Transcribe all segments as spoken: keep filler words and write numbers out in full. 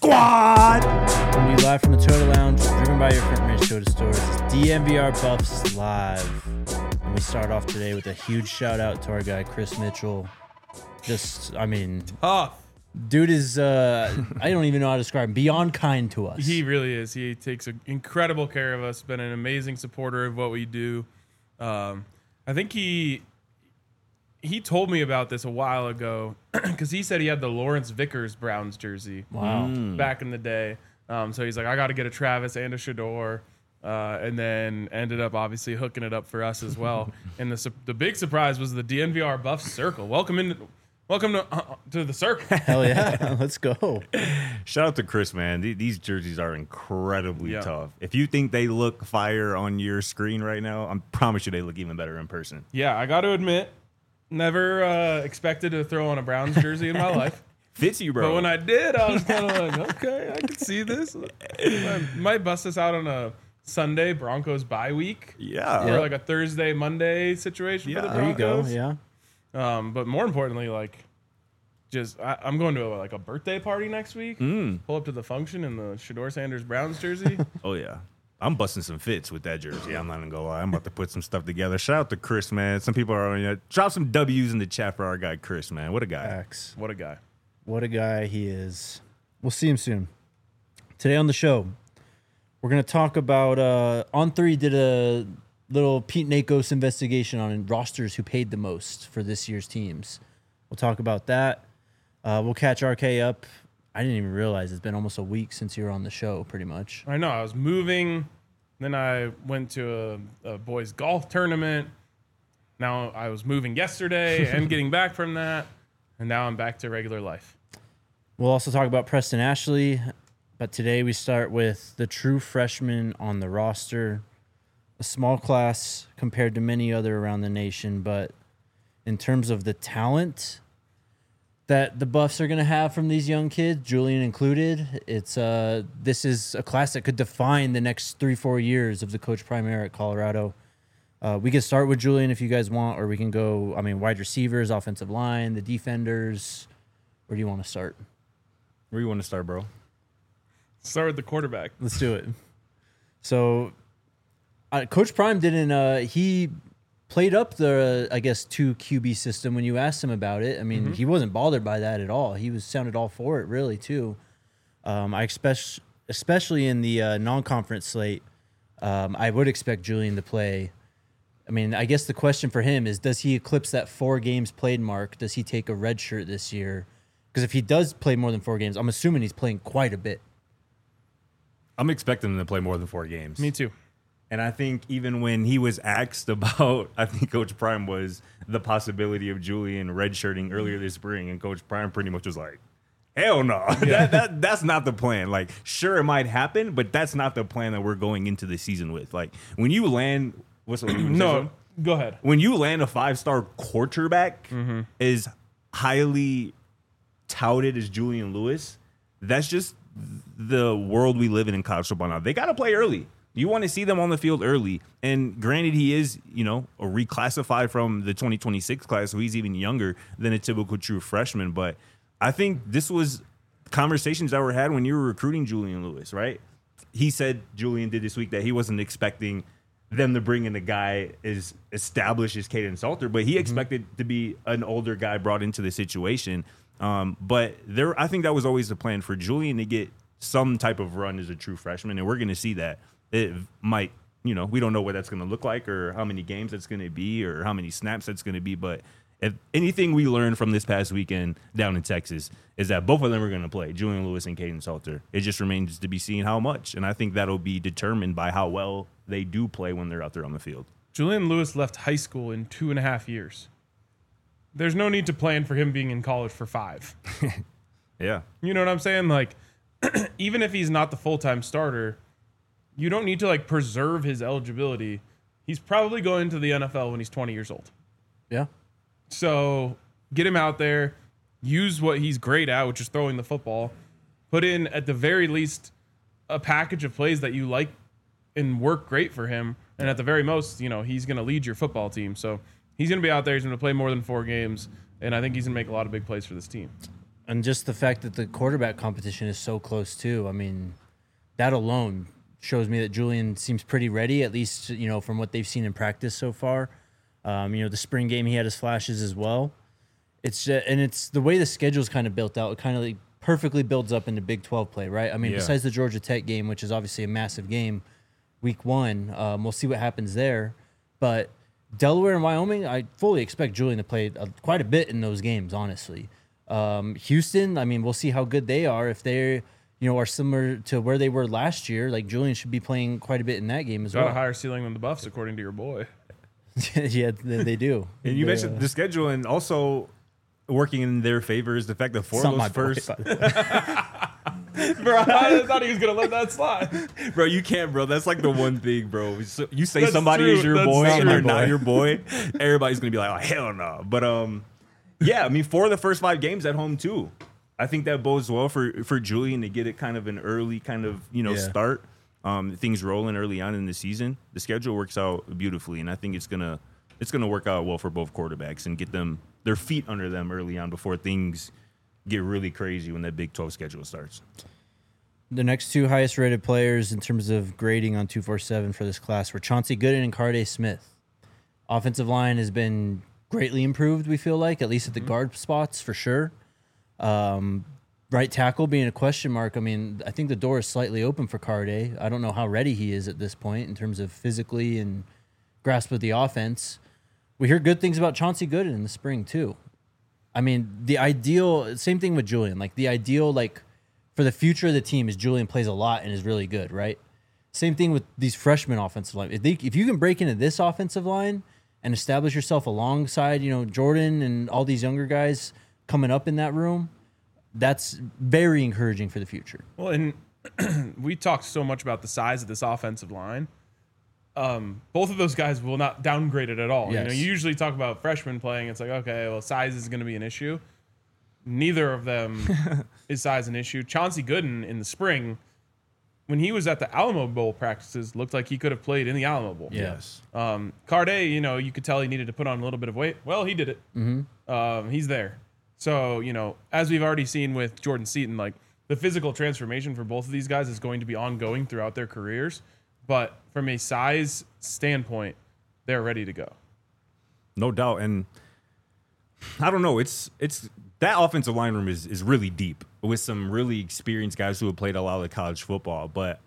Squad! Coming to you live from the Toyota Lounge, driven by your front range Toyota stores. It's D N V R Buffs Live. And we start off today with a huge shout out to our guy, Chris Mitchell. Just, I mean, Tough. dude is, uh, I don't even know how to describe him, beyond kind to us. He really is. He takes a, incredible care of us, been an amazing supporter of what we do. Um, I think he he told me about this a while ago because he said he had the Lawrence Vickers Browns jersey Wow. back in the day. Um, so he's like, I got to get a Travis and a Shador. Uh, and then ended up obviously hooking it up for us as well. And the su- the big surprise was the D N V R Buff Circle. Welcome in, welcome to uh, to the circle. Hell yeah. Let's go. Shout out to Chris, man. Th- These jerseys are incredibly Yeah. tough. If you think they look fire on your screen right now, I promise you they look even better in person. Yeah, I got to admit, never uh, expected to throw on a Browns jersey in my life. Fits you, bro. But when I did, I was kind of like, okay, I can see this. I might bust this out on a Sunday Broncos bye week. yeah. Or like a Thursday, Monday situation Yeah. for the There you go. Broncos. Yeah. Um, but more importantly, like, just I, I'm going to a, like a birthday party next week. Mm. Pull up to the function in the Shador Sanders Browns jersey. Oh, yeah. I'm busting some fits with that jersey. I'm not going to go lie. I'm about to put some stuff together. Shout out to Chris, man. Some people are on you. Drop some W's in the chat for our guy, Chris, man. What a guy. Facts. What a guy. What a guy he is. We'll see him soon. Today on the show, we're going to talk about uh, On three did a little Pete Nakos investigation on rosters who paid the most for this year's teams. We'll talk about that. Uh, we'll catch R K up. I didn't even realize it's been almost a week since you were on the show, pretty much. I know. I was moving. Then I went to a, a boys' golf tournament. Now I was moving yesterday and getting back from that. And now I'm back to regular life. We'll also talk about Preston Ashley. But today we start with the true freshman on the roster. A small class compared to many other around the nation. But in terms of the talent that the Buffs are going to have from these young kids, Julian included, it's uh, this is a class that could define the next three, four years of the Coach Prime era at Colorado. Uh, we can start with Julian if you guys want, or we can go, I mean, wide receivers, offensive line, the defenders. Where do you want to start? Where you want to start, bro? Start with the quarterback. Let's do it. So, uh, Coach Prime didn't, uh, he played up the, uh, I guess, two Q B system when you asked him about it. I mean, Mm-hmm. he wasn't bothered by that at all. He was sounded all for it, really, too. Um, I expect, especially in the uh, non-conference slate, um, I would expect Julian to play. I mean, I guess the question for him is, does he eclipse that four games played mark? Does he take a red shirt this year? Because if he does play more than four games, I'm assuming he's playing quite a bit. I'm expecting him to play more than four games. Me too. And I think even when he was asked about, I think Coach Prime was the possibility of Julian redshirting earlier this spring, and Coach Prime pretty much was like, hell no. that, that, that's not the plan. Like, sure, it might happen, but that's not the plan that we're going into the season with. Like, when you land, what's the No, go ahead. when you land a five-star quarterback as highly touted as Julian Lewis, that's just the world we live in in college football now. They got to play early. You want to see them on the field early. And granted, he is, you know, a reclassified from the twenty twenty-six class, so he's even younger than a typical true freshman. But I think this was conversations that were had when you were recruiting Julian Lewis, right? He said, Julian did this week, that he wasn't expecting them to bring in a guy as established as Kaden Salter, but he expected to be an older guy brought into the situation. Um, but there, I think that was always the plan for Julian to get some type of run as a true freshman, and we're going to see that. It might, you know, we don't know what that's going to look like or how many games that's going to be or how many snaps that's going to be. But if anything we learned from this past weekend down in Texas is that both of them are going to play, Julian Lewis and Kaden Salter. It just remains to be seen how much. And I think that'll be determined by how well they do play when they're out there on the field. Julian Lewis left high school in two and a half years. There's no need to plan for him being in college for five. Yeah. You know what I'm saying? Like, even if he's not the full-time starter, you don't need to, like, preserve his eligibility. He's probably going to the N F L when he's twenty years old. Yeah. So get him out there, use what he's great at, which is throwing the football, put in, at the very least, a package of plays that you like and work great for him. And at the very most, you know, he's going to lead your football team. So he's going to be out there. He's going to play more than four games. And I think he's going to make a lot of big plays for this team. And just the fact that the quarterback competition is so close too. I mean, that alone shows me that Julian seems pretty ready, at least, you know, from what they've seen in practice so far. Um, you know, the spring game, he had his flashes as well. It's just, and it's the way the schedule's kind of built out. It kind of like perfectly builds up into Big twelve play, right? I mean, Yeah. besides the Georgia Tech game, which is obviously a massive game, week one, um, we'll see what happens there. But Delaware and Wyoming, I fully expect Julian to play uh, quite a bit in those games, honestly. Um, Houston, I mean, we'll see how good they are. If they're, you know, are similar to where they were last year, like Julian should be playing quite a bit in that game as Got well. a higher ceiling than the Buffs, according to your boy. Yeah, they, they do. And you They, mentioned uh, the schedule, and also working in their favor is the fact that four it's of not my those boy, first, by the way. Bro, I thought he was gonna let that slide. bro, you can't, bro. That's like the one thing, bro. So you say That's somebody true. is your That's boy and true. they're not your boy, everybody's gonna be like, oh hell no. But um, yeah, I mean, four of the first five games at home too. I think that bodes well for for Julian to get it kind of an early kind of you know Yeah. start. Um, things rolling early on in the season. The schedule works out beautifully, and I think it's gonna it's gonna work out well for both quarterbacks and get them their feet under them early on before things get really crazy when that Big twelve schedule starts. The next two highest rated players in terms of grading on two forty-seven for this class were Chauncey Gooden and Carday Smith. Offensive line has been greatly improved, we feel like, at least at the guard spots for sure. Um, right tackle being a question mark. I mean, I think the door is slightly open for Carday. I don't know how ready he is at this point in terms of physically and grasp of the offense. We hear good things about Chauncey Gooden in the spring too. I mean, the ideal, same thing with Julian. Like the ideal, like for the future of the team is Julian plays a lot and is really good, right? Same thing with these freshman offensive line. If, they, if you can break into this offensive line and establish yourself alongside, you know, Jordan and all these younger guys coming up in that room, that's very encouraging for the future. Well, and we talked so much about the size of this offensive line. Um, both of those guys will not downgrade it at all. You know, Yes. you usually talk about freshmen playing. It's like, okay, well, size is going to be an issue. Neither of them is size an issue. Chauncey Gooden in the spring, when he was at the Alamo Bowl practices, looked like he could have played in the Alamo Bowl. Yes. Um, Carday, you know, you could tell he needed to put on a little bit of weight. Well, he did it. Mm-hmm. Um, he's there. So, you know, as we've already seen with Jordan Seaton, like the physical transformation for both of these guys is going to be ongoing throughout their careers. But from a size standpoint, they're ready to go. No doubt. And I don't know, it's it's that offensive line room is is really deep with some really experienced guys who have played a lot of college football. But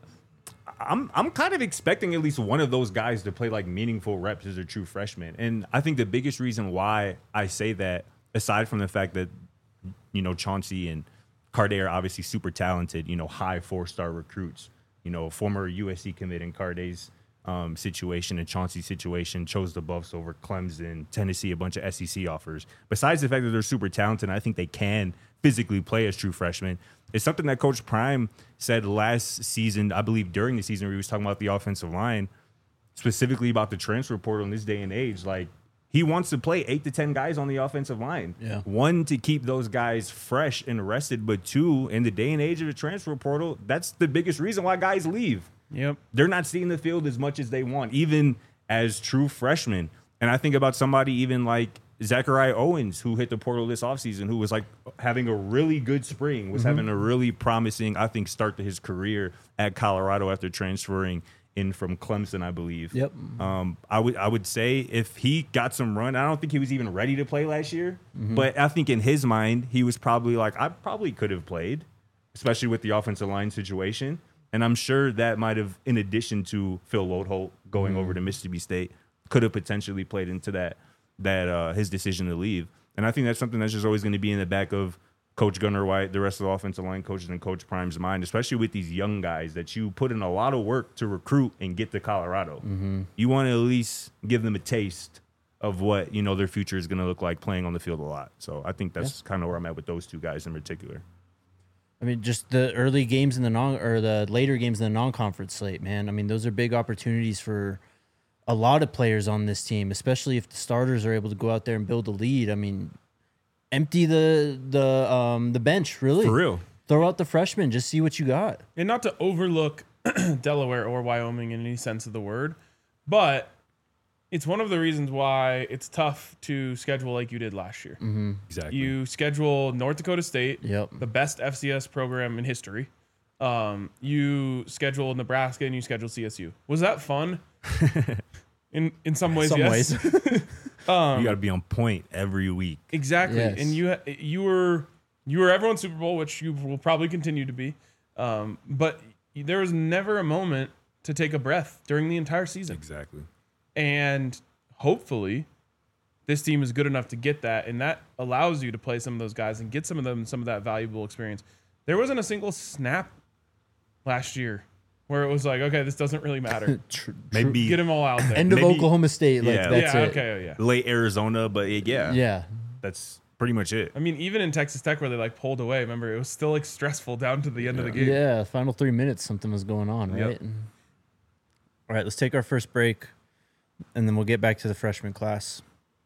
I'm I'm kind of expecting at least one of those guys to play like meaningful reps as a true freshman. And I think the biggest reason why I say that, aside from the fact that, you know, Chauncey and Carday are obviously super talented, you know, high four-star recruits, you know, former U S C commit in Carday's um, situation and Chauncey's situation, chose the Buffs over Clemson, Tennessee, a bunch of S E C offers. Besides the fact that they're super talented, I think they can physically play as true freshmen. It's something that Coach Prime said last season, I believe during the season, where he was talking about the offensive line, specifically about the transfer portal in this day and age. Like, he wants to play eight to ten guys on the offensive line. Yeah. One, to keep those guys fresh and rested, but two, in the day and age of the transfer portal, that's the biggest reason why guys leave. Yep. They're not seeing the field as much as they want, even as true freshmen. And I think about somebody even like Zachariah Owens, who hit the portal this offseason, who was like having a really good spring, was having a really promising, I think, start to his career at Colorado after transferring in from Clemson, I believe. Yep. Um, I would I would say if he got some run, I don't think he was even ready to play last year, but I think in his mind he was probably like, I probably could have played, especially with the offensive line situation. And I'm sure that might have, in addition to Phil Lodeholt going over to Mississippi State, could have potentially played into that that uh, his decision to leave. And I think that's something that's just always going to be in the back of Coach Gunnar White, the rest of the offensive line coaches, and Coach Prime's mind, especially with these young guys that you put in a lot of work to recruit and get to Colorado. Mm-hmm. You want to at least give them a taste of what, you know, their future is going to look like playing on the field a lot. So I think that's kind of where I'm at with those two guys in particular. I mean, just the early games in the non or the later games in the non-conference slate, man. I mean, those are big opportunities for a lot of players on this team, especially if the starters are able to go out there and build a lead. I mean, empty the the um, the bench, really. For real. Throw out the freshmen, just see what you got. And not to overlook Delaware or Wyoming in any sense of the word, but it's one of the reasons why it's tough to schedule like you did last year. Mm-hmm. Exactly. You schedule North Dakota State, Yep. the best F C S program in history. Um, you schedule Nebraska and you schedule C S U. Was that fun? in in some ways, Some yes. ways. you got to be on point every week. Exactly. Yes. And you you were you were everyone's Super Bowl, which you will probably continue to be. Um, but there was never a moment to take a breath during the entire season. Exactly. And hopefully this team is good enough to get that, and that allows you to play some of those guys and get some of them some of that valuable experience. There wasn't a single snap last year where it was like, okay, this doesn't really matter. Tr- Maybe Get them all out there. End of Maybe- Oklahoma State. Like Yeah. that's yeah, it. okay, yeah. late Arizona, but it, yeah, Yeah. that's pretty much it. I mean, even in Texas Tech where they like pulled away, remember, it was still like stressful down to the end of the game. Yeah. Final three minutes, something was going on, Yep. right? All right, let's take our first break, and then we'll get back to the freshman class.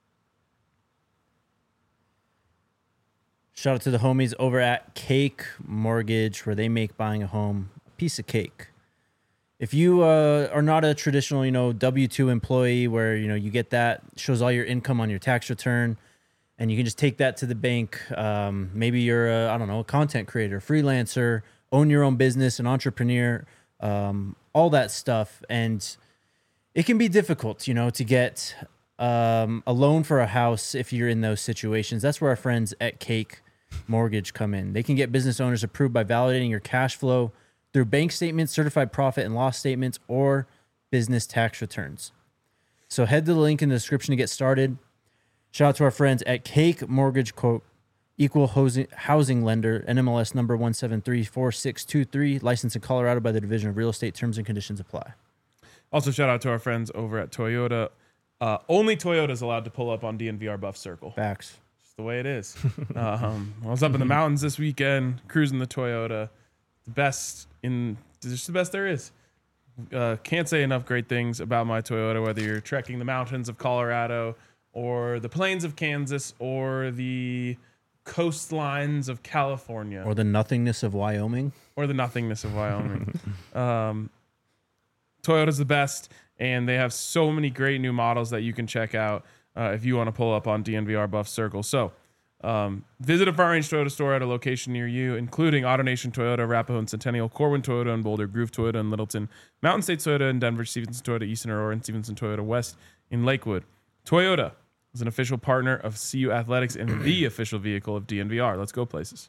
Shout out to the homies over at Cake Mortgage, where they make buying a home a piece of cake. If you uh, are not a traditional, you know, W two employee where, you know, you get that, shows all your income on your tax return, and you can just take that to the bank. Um, maybe you're, a, I don't know, a content creator, freelancer, own your own business, an entrepreneur, um, all that stuff. And it can be difficult, you know, to get um, a loan for a house if you're in those situations. That's where our friends at Cake Mortgage come in. They can get business owners approved by validating your cash flow through bank statements, certified profit and loss statements, or business tax returns. So head to the link in the description to get started. Shout out to our friends at Cake Mortgage, quote, equal housing, housing lender, N M L S number one seven three four six two three, licensed in Colorado by the Division of Real Estate. Terms and conditions apply. Also, shout out to our friends over at Toyota. Uh, only Toyota is allowed to pull up on D N V R Buff Circle. Facts. It's the way it is. um, I was up in the mountains this weekend, cruising the Toyota. The best in, just the best there is. Uh, can't say enough great things about my Toyota, whether you're trekking the mountains of Colorado or the plains of Kansas or the coastlines of California Or the nothingness of Wyoming. or the nothingness of Wyoming. um, Toyota's the best, and they have so many great new models that you can check out uh, if you want to pull up on D N V R Buff Circle. So um, visit a Front Range Toyota store at a location near you, including AutoNation Toyota, Arapahoe and Centennial, Corwin Toyota and Boulder, Groove Toyota in Littleton, Mountain State Toyota in Denver, Stevenson Toyota East in Aurora, and Stevenson Toyota West in Lakewood. Toyota is an official partner of C U Athletics and the official vehicle of D N V R. Let's go places.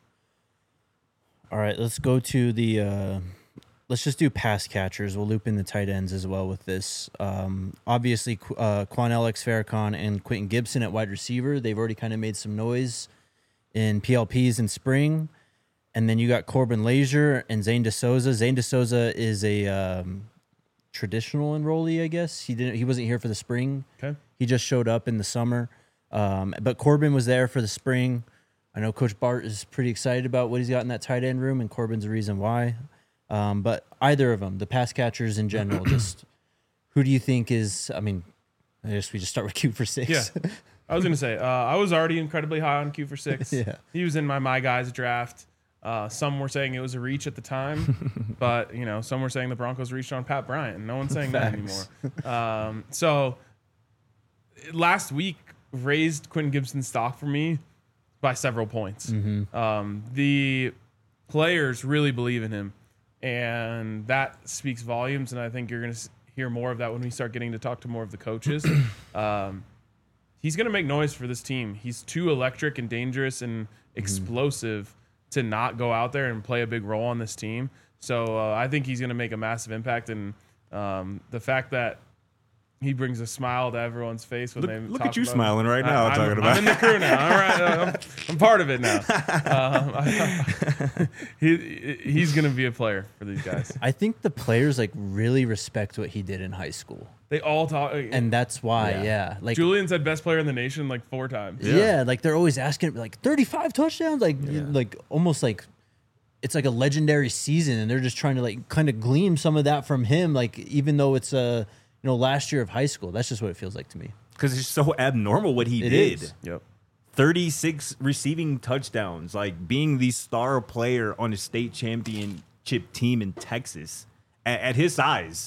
All right, let's go to the. Uh, let's just do pass catchers. We'll loop in the tight ends as well with this. Um, obviously, Qu- uh, Quan Alex Farrakhan and Quentin Gibson at wide receiver. They've already kind of made some noise in P L Ps in spring. And then you got Corbin Lazier and Zane DeSouza. Zane DeSouza is a um, traditional enrollee, I guess. He didn't. He wasn't here for the spring. Okay. He just showed up in the summer. Um, but Corbin was there for the spring. I know Coach Bart is pretty excited about what he's got in that tight end room, and Corbin's the reason why. Um, but either of them, the pass catchers in general, just who do you think is, I mean, I guess we just start with Q for six. Yeah. I was going to say, uh, I was already incredibly high on Q for six. Yeah. He was in my My Guys draft. Uh, some were saying it was a reach at the time, but, you know, some were saying the Broncos reached on Pat Bryant. No one's saying that Facts. anymore. Um, so last week raised Quentin Gibson's stock for me by several points. Mm-hmm. Um, the players really believe in him, and that speaks volumes. And I think you're going to hear more of that when we start getting to talk to more of the coaches. um, he's going to make noise for this team. He's too electric and dangerous and explosive mm-hmm. to not go out there and play a big role on this team. So uh, I think he's going to make a massive impact. And um, the fact that he brings a smile to everyone's face when Look, they look talk at you about smiling right I- now. I'm, talking I'm about in the crew now. All right, I'm, I'm part of it now. Um, he he's going to be a player for these guys. I think the players like really respect what he did in high school. They all talk. And that's why, yeah. Yeah. Like Julian said best player in the nation like four times. yeah. Yeah. like they're always asking like thirty-five touchdowns, like like almost like it's like a legendary season, and they're just trying to like kind of glean some of that from him, like even though it's a you know last year of high school. That's just what it feels like to me. because it's so abnormal what he It did. is. Yep. thirty-six receiving touchdowns, like being the star player on a state championship team in Texas at, at his size.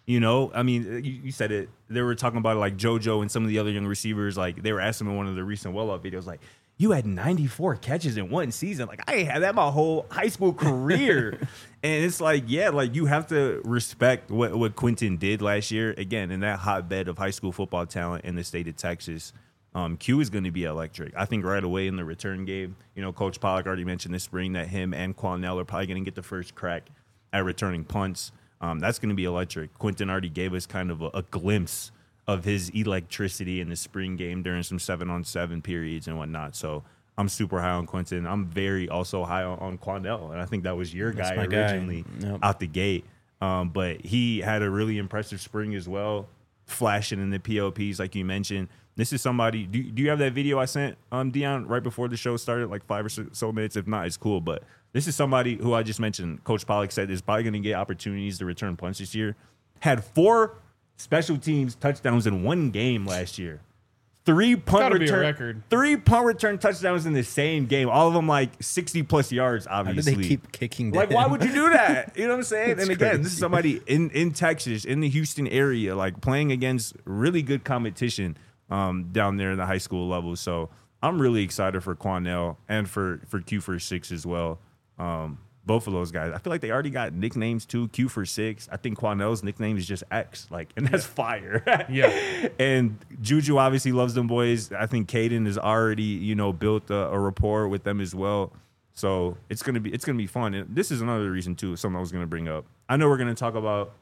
You know, I mean, you, you said it. They were talking about it, like JoJo and some of the other young receivers. Like they were asking in one of the recent well up videos, like, you had ninety-four catches in one season. Like I ain't had that my whole high school career. And it's like, yeah, like you have to respect what, what Quentin did last year. Again, in that hotbed of high school football talent in the state of Texas. Um, Q is going to be electric. I think right away in the return game, you know, Coach Pollock already mentioned this spring that him and Quanell are probably going to get the first crack at returning punts. Um, that's going to be electric. Quentin already gave us kind of a, a glimpse of his electricity in the spring game during some seven-on-seven periods and whatnot. So I'm super high on Quentin. I'm very also high on, on Quanell, and I think that was your That's guy my originally guy. Yep. out the gate. Um, but he had a really impressive spring as well, flashing in the P O Ps like you mentioned. This is somebody. Do, do you have that video I sent, um, Dion, right before the show started, like five or so minutes? If not, it's cool. But this is somebody who I just mentioned. Coach Pollock said is probably going to get opportunities to return punts this year. Had four special teams touchdowns in one game last year. Three punt Gotta be a return, record. three punt return touchdowns in the same game. All of them like sixty plus yards. How did Obviously, they keep kicking? To like, him? why would you do that? You know what I'm saying? It's And again, this crazy. is somebody in, in Texas, in the Houston area, like playing against really good competition um, down there in the high school level. So I'm really excited for Quanell and for, for Q for six as well. Um, both of those guys. I feel like they already got nicknames too. Q for six. I think Quanell's nickname is just X. Like, and that's fire. Yeah. And Juju obviously loves them boys. I think Caden has already, you know, built a, a rapport with them as well. So it's gonna be it's gonna be fun. And this is another reason too. Something I was gonna bring up. I know we're gonna talk about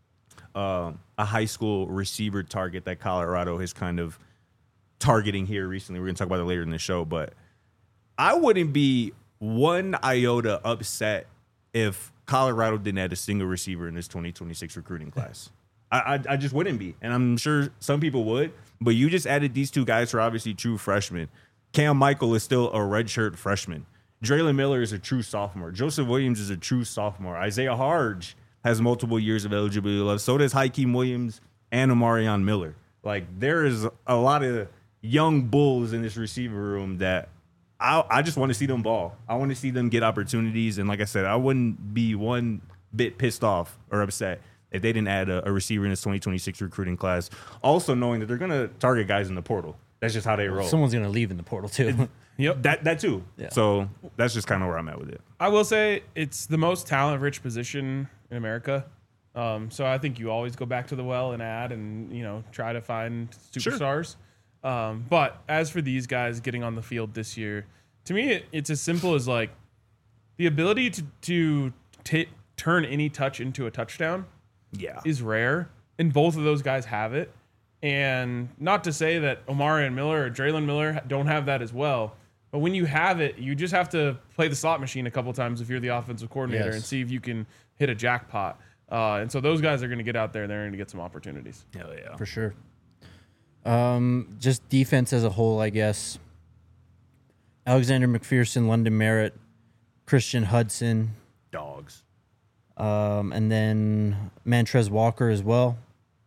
um, a high school receiver target that Colorado is kind of targeting here recently. We're gonna talk about it later in the show, but I wouldn't be one iota upset if Colorado didn't add a single receiver in this twenty twenty-six recruiting class. I, I I just wouldn't be, and I'm sure some people would. But you just added these two guys who are obviously true freshmen. Cam Michael is still a redshirt freshman. Draylon Miller is a true sophomore. Joseph Williams is a true sophomore. Isaiah Harge has multiple years of eligibility left. So does Hakeem Williams and Omarion Miller. Like, there is a lot of young bulls in this receiver room that I, I just want to see them ball. I want to see them get opportunities. And like I said, I wouldn't be one bit pissed off or upset if they didn't add a, a receiver in this twenty twenty-six recruiting class. Also knowing that they're going to target guys in the portal. That's just how they roll. Someone's gonna leave in the portal too. Yep. That that too. Yeah. So that's just kind of where I'm at with it. I will say it's the most talent-rich position in America. Um, so I think you always go back to the well and add and, you know, try to find Sure. superstars. Um, but as for these guys getting on the field this year, to me, it, it's as simple as like the ability to, to t- turn any touch into a touchdown Yeah. is rare, and both of those guys have it. And not to say that Omarion Miller or Draylon Miller don't have that as well, but when you have it, you just have to play the slot machine a couple times if you're the offensive coordinator Yes. and see if you can hit a jackpot. Uh, and so those guys are going to get out there. They're going to get some opportunities. Hell yeah. For sure. Um, just defense as a whole, I guess. Alexander McPherson, London Merritt, Christian Hudson, Dogs. um, and then Mantrez Walker as well.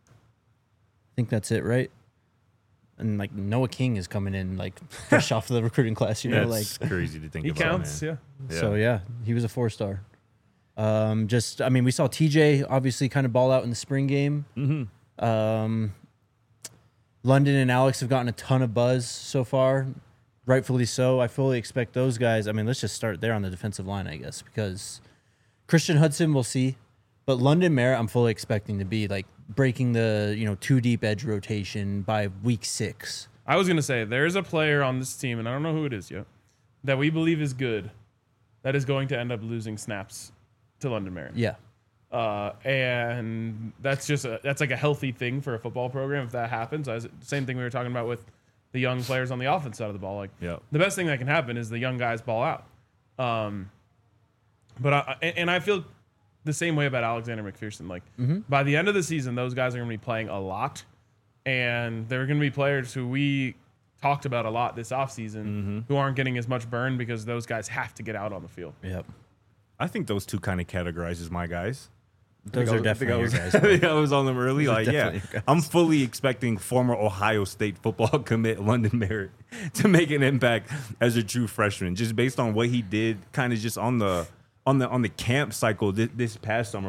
I think that's it, right? And like Noah King is coming in like fresh off the recruiting class, you know, like That's crazy to think He about. counts, man. yeah. so. Yeah, he was a four star. Um, just, I mean, we saw T J obviously kind of ball out in the spring game. Mm-hmm. Um, London and Alex have gotten a ton of buzz so far, rightfully so. I fully expect those guys. I mean, let's just start there on the defensive line, I guess, because Christian Hudson, we'll see. But London Merritt, I'm fully expecting to be like breaking the, you know, two deep edge rotation by week six. I was going to say, there's a player on this team, and I don't know who it is yet, that we believe is good, that is going to end up losing snaps to London Merritt. Yeah. Uh, and that's just a, that's like a healthy thing for a football program if that happens. As, same thing we were talking about with the young players on the offense side of the ball. Like Yep. the best thing that can happen is the young guys ball out. Um, but I, and and I feel the same way about Alexander McPherson. Like by the end of the season, those guys are going to be playing a lot, and they're going to be players who we talked about a lot this offseason Mm-hmm. who aren't getting as much burn because those guys have to get out on the field. Yep. I think those two kind of categorizes my guys. Those I are was- I think definitely I your was, guys. I think I was on them early. Those are Like, yeah, definitely your guys. I'm fully expecting former Ohio State football commit London Merritt to make an impact as a true freshman, just based on what he did, kind of just on the on the on the camp cycle this, this past summer. What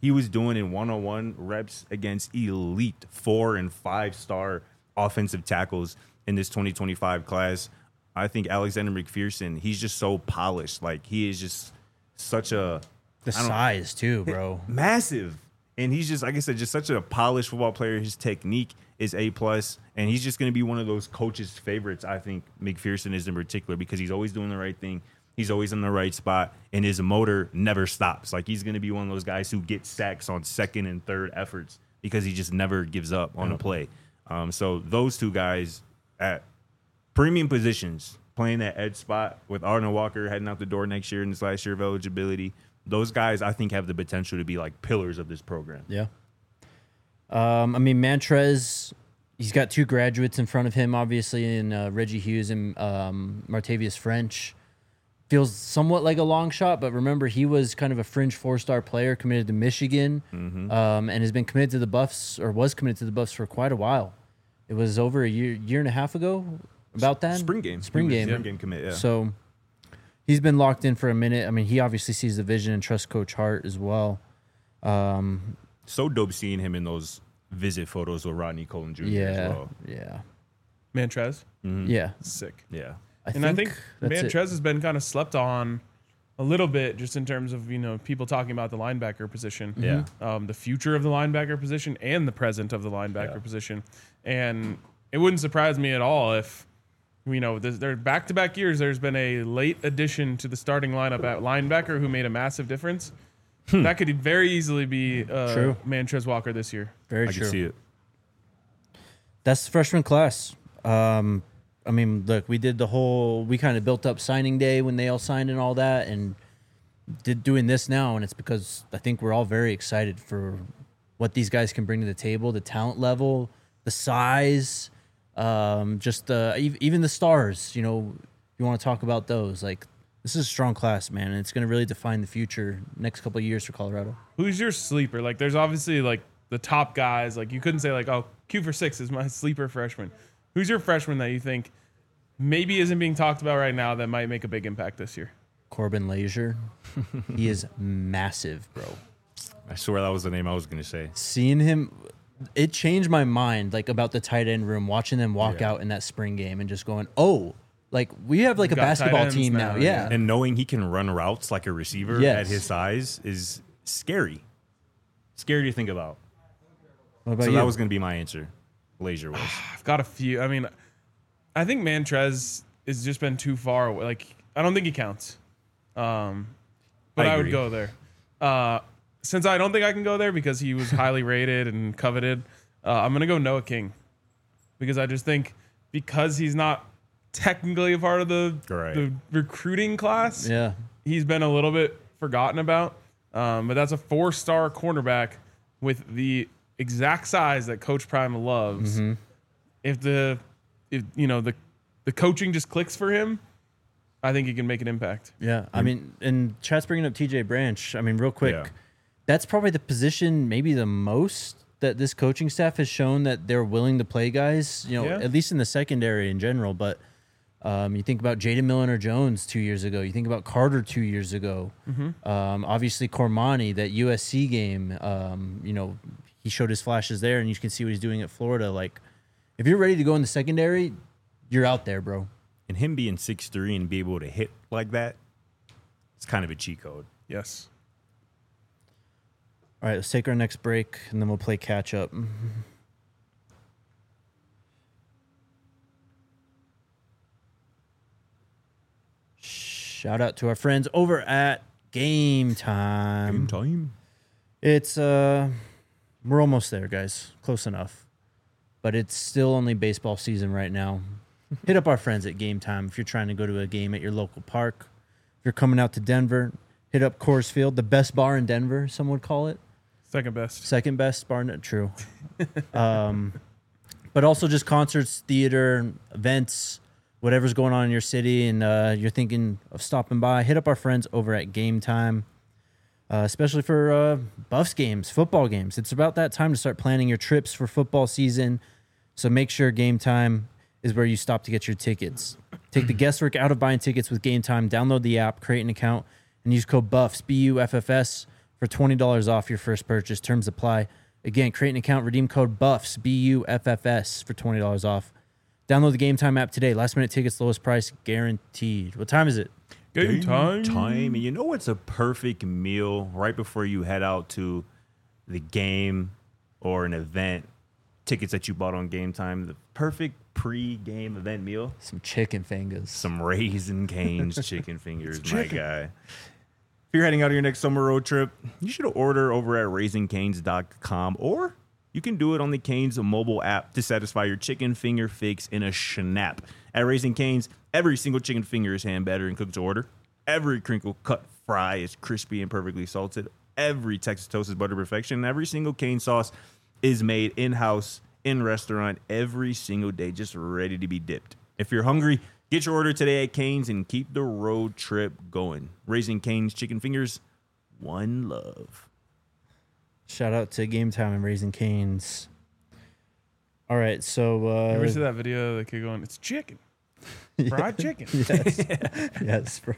he was doing in one-on-one reps against elite four and five star offensive tackles in this twenty twenty-five class. I think Alexander McPherson, he's just so polished. Like, he is just such a The size too, bro. massive. And he's just, like I said, just such a polished football player. His technique is A plus, and he's just going to be one of those coaches' favorites. I think McPherson is in particular because he's always doing the right thing. He's always in the right spot, and his motor never stops. Like, he's going to be one of those guys who gets sacks on second and third efforts because he just never gives up on a play. Um, so those two guys at premium positions, playing that edge spot with Arnold Walker heading out the door next year in his last year of eligibility, those guys I think have the potential to be like pillars of this program. Yeah. Um, I mean, Mantrez, he's got two graduates in front of him, obviously, in uh, Reggie Hughes and um, Martavius French. Feels somewhat like a long shot, but remember, he was kind of a fringe four-star player committed to Michigan Mm-hmm. um, and has been committed to the Buffs, or was committed to the Buffs for quite a while. It was over a year, year and a half ago, about that? Spring game. Spring He was game. Spring game commit, yeah. So he's been locked in for a minute. I mean, he obviously sees the vision and trusts Coach Hart as well. Um, So dope seeing him in those visit photos with Rodney Cullen Junior yeah, as well. yeah, Mantrez, yeah. sick. Yeah. I and I think that's it. Mantrez has been kind of slept on a little bit, just in terms of, you know, people talking about the linebacker position, Yeah. um, the future of the linebacker position and the present of the linebacker Yeah. position. And it wouldn't surprise me at all if, you know, there's, there back-to-back years, there's been a late addition to the starting lineup at linebacker who made a massive difference. That could very easily be uh, True. Mantrez Walker this year. Very I true. can see it. That's the freshman class. Um, I mean, look, we did the whole, we kind of built up signing day when they all signed and all that, and did doing this now, and it's because I think we're all very excited for what these guys can bring to the table, the talent level, the size, um, just uh, ev- even the stars. You know, you want to talk about those. Like, this is a strong class, man, and it's going to really define the future next couple of years for Colorado. Who's your sleeper? Like, there's obviously like the top guys. Like, you couldn't say like, oh, Q for six is my sleeper freshman. Who's your freshman that you think maybe isn't being talked about right now that might make a big impact this year? Corbin Leisure, he is massive, bro. I swear that was the name I was going to say. Seeing him, it changed my mind, like, about the tight end room, watching them walk Yeah. out in that spring game and just going, oh, like, we have like a got tight basketball ends team now. now, Yeah. And knowing he can run routes like a receiver Yes. at his size is scary. Scary to think about. What about So you? that was going to be my answer. Leisure was. I've got a few. I mean, I think Mantrez has just been too far away. Like, I don't think he counts. Um, but I I, would agree. go there. Uh, since I don't think I can go there because he was highly rated and coveted, uh, I'm going to go Noah King. Because I just think because he's not technically a part of the, Right. the recruiting class, yeah. he's been a little bit forgotten about. Um, but that's a four-star cornerback with the exact size that Coach Prime loves. Mm-hmm. If the, if you know the, the coaching just clicks for him, I think he can make an impact. Yeah. I mean, and Chat's bringing up T J Branch. I mean, real quick, Yeah. that's probably the position maybe the most that this coaching staff has shown that they're willing to play guys, you know, Yeah. at least in the secondary in general. But um, you think about Jaden Milliner-Jones two years ago. You think about Carter two years ago. Mm-hmm. Um, obviously, Cormani, that U S C game, um, you know, he showed his flashes there, and you can see what he's doing at Florida. Like, if you're ready to go in the secondary, you're out there, bro. And him being six three and be able to hit like that, it's kind of a cheat code. Yes. All right, let's take our next break, and then we'll play catch up. Shout out to our friends over at Game Time. time. It's uh, we're almost there, guys. Close enough, but it's still only baseball season right now. Hit up our friends at Game Time if you're trying to go to a game at your local park. If you're coming out to Denver, hit up Coors Field, the best bar in Denver. Some would call it. Second best. Second best bar, no, true. um, but also just concerts, theater, events, whatever's going on in your city, and uh, you're thinking of stopping by, hit up our friends over at Game Time, uh, especially for uh, Buffs games, football games. It's about that time to start planning your trips for football season. So make sure Game Time is where you stop to get your tickets. Take the guesswork out of buying tickets with Game Time. Download the app, create an account, and use code BUFFS, B U F F S, for twenty dollars off your first purchase. Terms apply. Again, create an account, redeem code BUFFS, B U F F S, for twenty dollars off. Download the Game Time app today. Last minute tickets, lowest price guaranteed. What time is it? Game time. Time. And you know what's a perfect meal right before you head out to the game or an event? Tickets that you bought on Game Time. The perfect pre-game event meal. Some chicken fingers. Some Raisin Cane's chicken fingers, my guy. If you're heading out on your next summer road trip, you should order over at raisin canes dot com, or you can do it on the Cane's mobile app to satisfy your chicken finger fix in a snap. At Raising Cane's, every single chicken finger is hand battered and cooked to order. Every crinkle cut fry is crispy and perfectly salted. Every Texas toast is butter perfection. And every single cane sauce is made in-house, in restaurant, every single day, just ready to be dipped. If you're hungry, get your order today at Cane's and keep the road trip going. Raising Cane's chicken fingers, one love. Shout out to Game Time and Raising Cane's. All right, so uh, You ever see that video of the kid going, "It's chicken, fried chicken"? yes, yes, bro.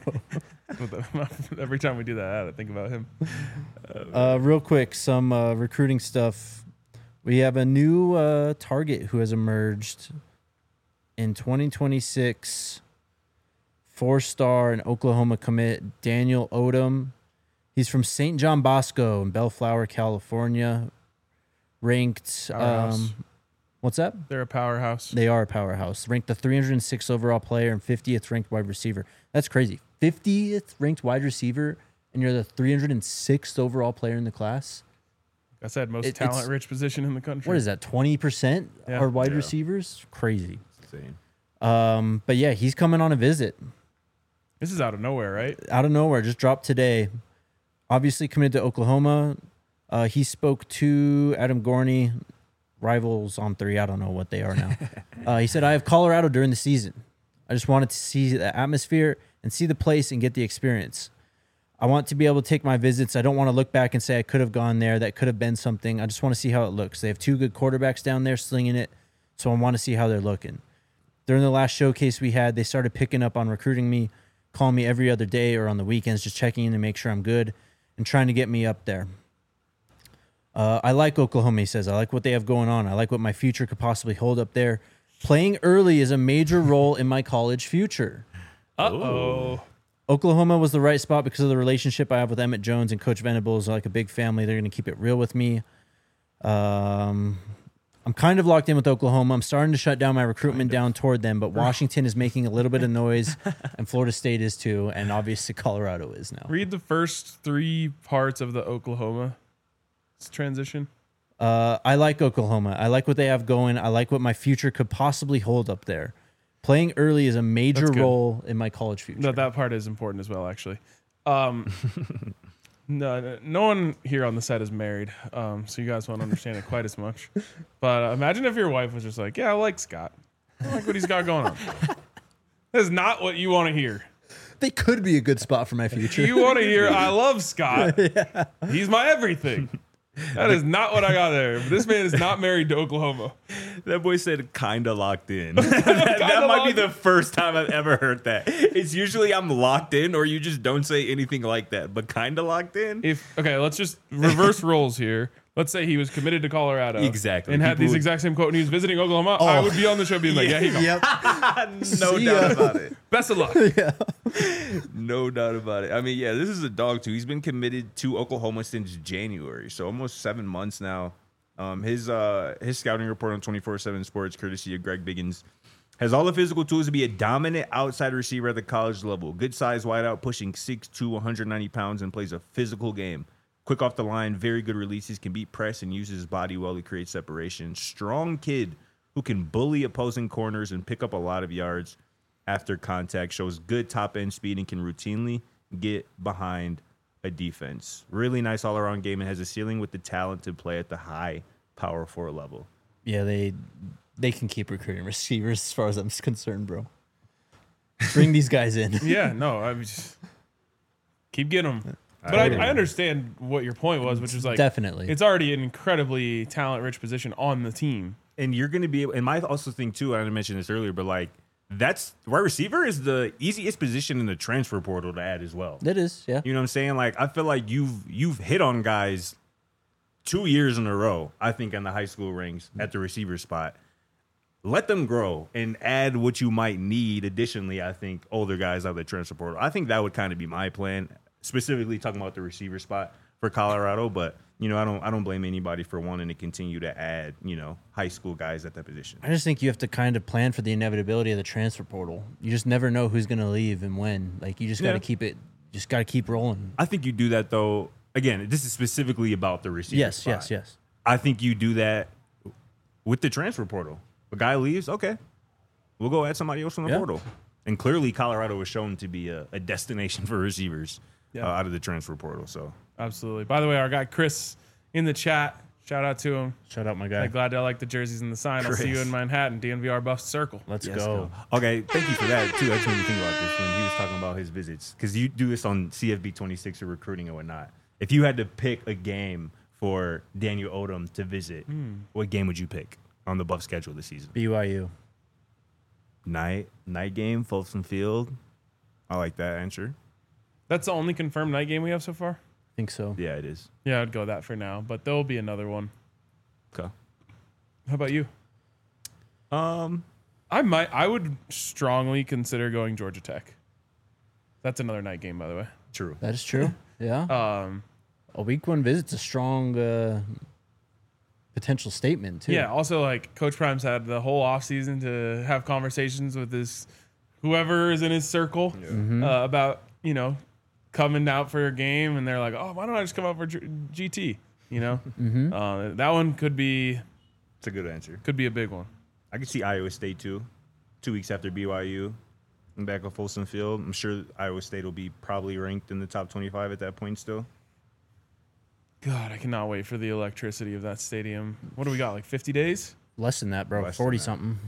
Every time we do that, I think about him. Uh, real quick, some uh, recruiting stuff. We have a new uh, target who has emerged in twenty twenty-six. Four-star and Oklahoma commit Daniel Odom. He's from Saint John Bosco in Bellflower, California. Ranked, Powerhouse. um, what's that? They're a powerhouse. They are a powerhouse. Ranked the three hundred sixth overall player and fiftieth ranked wide receiver. That's crazy. fiftieth ranked wide receiver, and you're the three hundred sixth overall player in the class. I said most It- it's- talent-rich position in the country. What is that? twenty percent Yeah. are wide Yeah. receivers. Crazy. Insane. Um, but yeah, he's coming on a visit This is out of nowhere, right? out of nowhere. Just dropped today. Obviously committed to Oklahoma. Uh, he spoke to Adam Gorney, rivals on three. I don't know what they are now. uh, he said, "I have Colorado during the season. I just wanted to see the atmosphere and see the place and get the experience. I want to be able to take my visits. I don't want to look back and say I could have gone there. That could have been something. I just want to see how it looks. They have two good quarterbacks down there slinging it, so I want to see how they're looking. During the last showcase we had, they started picking up on recruiting me, calling me every other day or on the weekends, just checking in to make sure I'm good and trying to get me up there. Uh, I like Oklahoma," he says. "I like what they have going on. I like what my future could possibly hold up there. Playing early is a major role in my college future. Uh-oh. Oklahoma was the right spot because of the relationship I have with Emmett Jones and Coach Venables. Like a big family. They're going to keep it real with me. Um, I'm kind of locked in with Oklahoma. I'm starting to shut down my recruitment down toward them, but Washington is making a little bit of noise, and Florida State is too, and obviously Colorado is now. Read the first three parts of the Oklahoma transition. Uh, I like Oklahoma. I like what they have going. I like what my future could possibly hold up there. Playing early is a major That's good. role in my college future." No, that part is important as well, actually. Um, no, no, no one here on the set is married, um, so you guys won't understand it quite as much. But uh, imagine if your wife was just like, "Yeah, I like Scott. I like what he's got going on." That is not what you want to hear. They could be a good spot for my future. You want to hear, "I love Scott. He's my everything." That is not what I got there. This man is not married to Oklahoma. That boy said kinda locked in. that that might be the first time I've ever heard that. It's usually I'm locked in or you just don't say anything like that. But kinda locked in? If okay, let's just reverse roles here. Let's say he was committed to Colorado. Exactly. And had People these would- exact same quote and he was visiting Oklahoma. I Oh. would be on the show being like, yeah, he go. Yep. No See doubt ya. about it. Best of luck. No doubt about it. I mean, yeah, this is a dog too. He's been committed to Oklahoma since January, so almost seven months now. Um, his uh, his scouting report on twenty-four seven Sports, courtesy of Greg Biggins, has all the physical tools to be a dominant outside receiver at the college level. Good size wideout, pushing six to one hundred ninety pounds, and plays a physical game. Quick off the line, very good releases, can beat press and uses his body well to create separation. Strong kid who can bully opposing corners and pick up a lot of yards after contact. Shows good top end speed and can routinely get behind a defense. Really nice all around game and has a ceiling with the talent to play at the high power four level. Yeah, they they can keep recruiting receivers as far as I'm concerned, bro. Bring these guys in. Yeah, no, I mean, just keep getting them. But I, I understand what your point was, which is like Definitely. it's already an incredibly talent-rich position on the team. And you're going to be able, and my also thing too, I didn't mention this earlier, but like that's wide receiver is the easiest position in the transfer portal to add as well. It is, yeah. You know what I'm saying? Like, I feel like you've you've hit on guys two years in a row, I think, in the high school ranks at the receiver spot. Let them grow and add what you might need additionally, I think, older guys out of the transfer portal. I think that would kind of be my plan, specifically talking about the receiver spot for Colorado. But, you know, I don't I don't blame anybody for wanting to continue to add, you know, high school guys at that position. I just think you have to kind of plan for the inevitability of the transfer portal. You just never know who's going to leave and when. Like, you just got to Yeah. keep it, just got to keep rolling. I think you do that, though. Again, this is specifically about the receiver Yes, spot. yes, yes. I think you do that with the transfer portal. A guy leaves, okay, we'll go add somebody else from the Yeah. portal. And clearly, Colorado was shown to be a, a destination for receivers Yeah. uh, out of the transfer portal. So Absolutely. By the way, our guy Chris in the chat, shout out to him. Shout out my I'm guy. glad I like the jerseys and the sign. I'll see you Chris. in Manhattan, D N V R Buff Circle. Let's yes, go. Okay, thank you for that too. That's when you think about this when he was talking about his visits, because you do this on C F B twenty-six or recruiting and whatnot. If you had to pick a game for Daniel Odom to visit, what game would you pick on the Buff schedule this season? B Y U. Night night game, Folsom Field. I like that answer. That's the only confirmed night game we have so far. I think so. Yeah, it is. Yeah, I'd go that for now, but there will be another one. Okay. How about you? Um, I might. I would strongly consider going Georgia Tech. That's another night game, by the way. true. That is true. Yeah. Um, A week one visit's a strong uh, potential statement, too. yeah. Also, like Coach Prime's had the whole offseason to have conversations with his whoever is in his circle uh, about you know coming out for a game, and they're like, "Oh, why don't I just come out for G- GT?" You know, Mm-hmm. uh, that one could be It's a good answer. could be a big one. I could see Iowa State too. Two weeks after B Y U, and back at Folsom Field. I'm sure Iowa State will be probably ranked in the top twenty-five at that point still. God, I cannot wait for the electricity of that stadium. What do we got? Like fifty days? Less than that, bro. Less than forty that. something.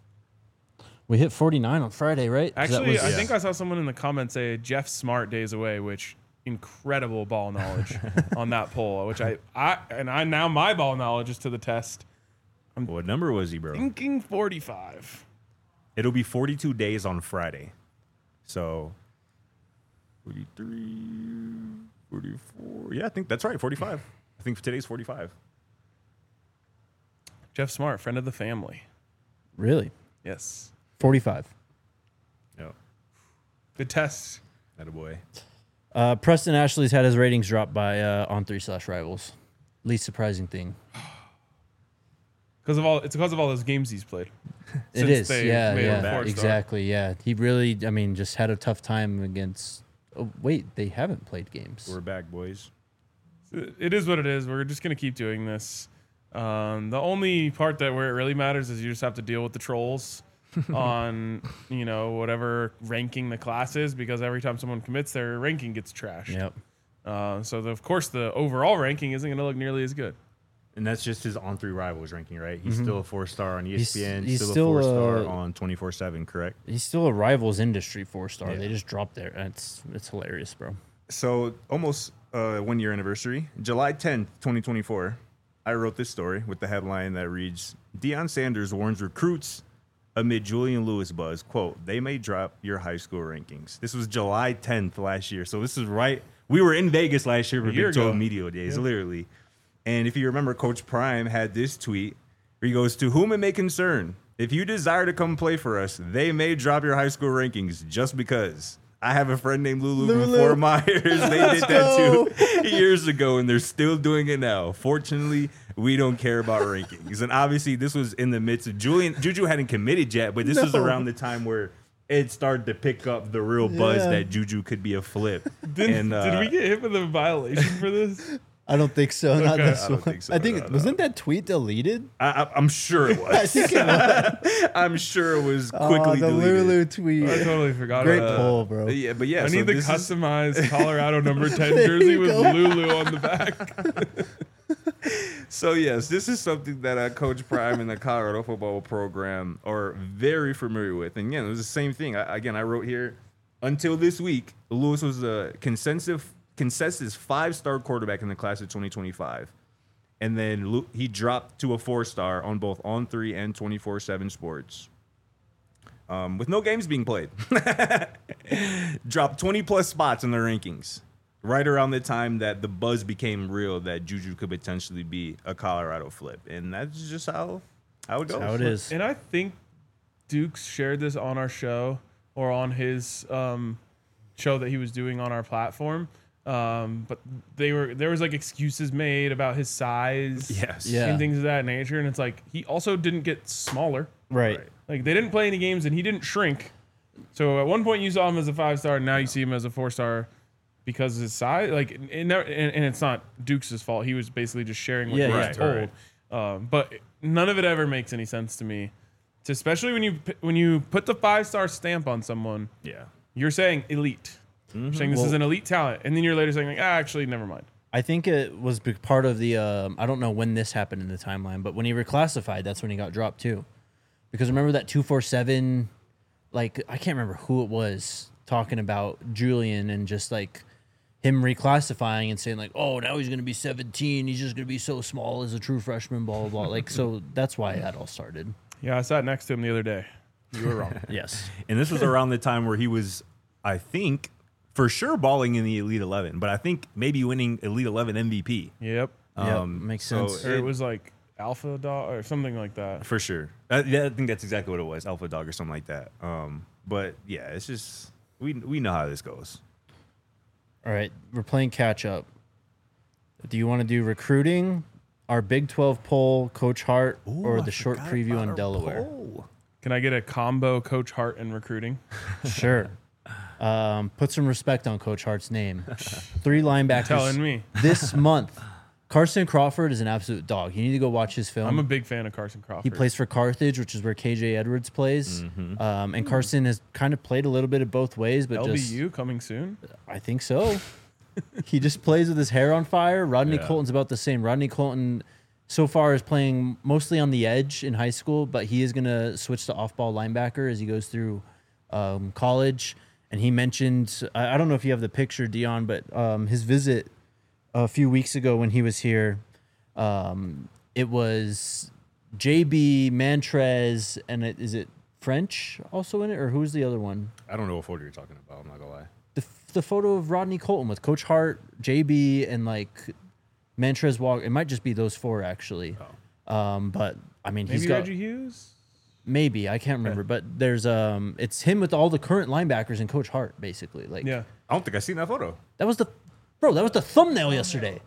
We hit forty-nine on Friday, right? 'Cause that Actually, was- I Yeah. think I saw someone in the comments say Jeff Smart days away, which incredible ball knowledge on that poll. Which I, I and I now my ball knowledge is to the test. What number was he, bro? Thinking forty-five. It'll be forty-two days on Friday. So forty-three, forty-four. Yeah, I think that's right. forty-five. I think today's forty-five. Jeff Smart, friend of the family. Really? Yes. forty-five. Yeah. Good test. That a boy. Uh, Preston Ashley's had his ratings drop by uh, on three slash rivals. Least surprising thing. Because of all it's because of all those games he's played. It Since is. they Yeah, made him yeah. a four-star. Exactly. Yeah. He really, I mean, just had a tough time against. Oh, wait, they haven't played games. We're back, boys. It is what it is. We're just gonna keep doing this. Um, the only part that where it really matters is you just have to deal with the trolls on you know whatever ranking the class is, because every time someone commits, their ranking gets trashed. Yep. Uh, so the, of course the overall ranking isn't going to look nearly as good. And that's just his on three rivals ranking, right? He's still a four star on E S P N, He's- he's still, still, a four star uh, on twenty-four seven, correct? He's still a rivals industry four star. Yeah. They just dropped there. It's it's hilarious, bro. So almost uh, one year anniversary, July tenth, twenty twenty-four. I wrote this story with the headline that reads, Deion Sanders warns recruits amid Julian Lewis buzz, quote, they may drop your high school rankings. This was July tenth last year. So this is right. We were in Vegas last year for A year Big twelve ago. Media Days, Yeah. literally. And if you remember, Coach Prime had this tweet where he goes, to whom it may concern, if you desire to come play for us, they may drop your high school rankings just because. I have a friend named Lulu, from Lulu. Fort Myers. They did that too years ago, and they're still doing it now. Fortunately, we don't care about rankings. And obviously, this was in the midst of Julian. Juju hadn't committed yet, but this was No. around the time where it started to pick up the real buzz Yeah. that Juju could be a flip. Did, and, uh, did we get hit with a violation for this? I don't think so. Not Okay. this I don't one. think so. I think No, no. wasn't that tweet deleted? I, I, I'm sure it I was. think it was. I'm sure it was Oh, quickly the deleted. Lulu tweet. I totally forgot Great about that. poll, bro. Yeah, but yeah, I so need the this is- customized Colorado number ten There jersey you with go. Lulu on the back. So yes, this is something that uh, Coach Prime and the Colorado football program are very familiar with. And again, it was the same thing. I, again, I wrote here, until this week, Lewis was a consensus consensus five-star quarterback in the class of twenty twenty-five. And then Lu- he dropped to a four-star on both On three and twenty-four seven Sports. um, with no games being played, dropped twenty plus spots in the rankings. Right around the time that the buzz became real that Juju could potentially be a Colorado flip. And that's just how, how it goes. How it is. And I think Dukes shared this on our show or on his um, show that he was doing on our platform. Um, but they were there was like excuses made about his size, Yes. Yeah. and things of that nature. And it's like he also didn't get smaller. Right. Right. Like they didn't play any games, and he didn't shrink. So at one point you saw him as a five star, and now you see him as a four star because of his size. Like, it never, and, and it's not Dukes' fault. He was basically just sharing what Yeah, he yeah. was Right, told. Um, but none of it ever makes any sense to me. So especially when you p- when you put the five star stamp on someone, Yeah. you're saying elite. You're saying this Well- is an elite talent, and then you're later saying like, ah, actually, never mind. I think it was be- part of the. Um, I don't know when this happened in the timeline, but when he reclassified, that's when he got dropped too. Because remember that two four seven, like I can't remember who it was talking about Julian and just like him reclassifying and saying like, oh, now he's gonna be seventeen. He's just gonna be so small as a true freshman. Blah blah blah. Like so, that's why that all started. Yeah, I sat next to him the other day. You were wrong. Yes. And this was around the time where he was, I think, for sure balling in the Elite eleven, but I think maybe winning Elite eleven M V P. Yep. Yeah, Um, makes so sense. Or it was like Alpha Dog or something like that. For sure. I, yeah, I think that's exactly what it was, Alpha Dog or something like that. Um, but yeah, it's just, we we know how this goes. All right, we're playing catch up. Do you want to do recruiting, our Big twelve poll, Coach Hart, or Ooh, I the short forgot preview about on our Delaware? poll. Can I get a combo Coach Hart and recruiting? Sure. Um, put some respect on Coach Hart's name. Three linebackers Telling me. this month. Carson Crawford is an absolute dog. You need to go watch his film. I'm a big fan of Carson Crawford. He plays for Carthage, which is where K J Edwards plays. Um, and Carson has kind of played a little bit of both ways, but L B just U coming soon. I think so. He just plays with his hair on fire. Rodney Yeah. Colton's about the same. Rodney Colton so far is playing mostly on the edge in high school, but he is going to switch to off-ball linebacker as he goes through um, college. And he mentioned, I, I don't know if you have the picture, Dion, but um, his visit a few weeks ago when he was here, um, it was J B, Mantrez, and it, is it French also in it, or who's the other one? I don't know what photo you're talking about. I'm not gonna lie. The, the photo of Rodney Colton with Coach Hart, J B, and like Mantrez Walker. It might just be those four actually. Um, but I mean, Maybe he's got Reggie Hughes. maybe I can't remember, but there's um, it's him with all the current linebackers and Coach Hart basically. Like, Yeah. I don't think I've seen that photo. that was the bro. That was the thumbnail yesterday.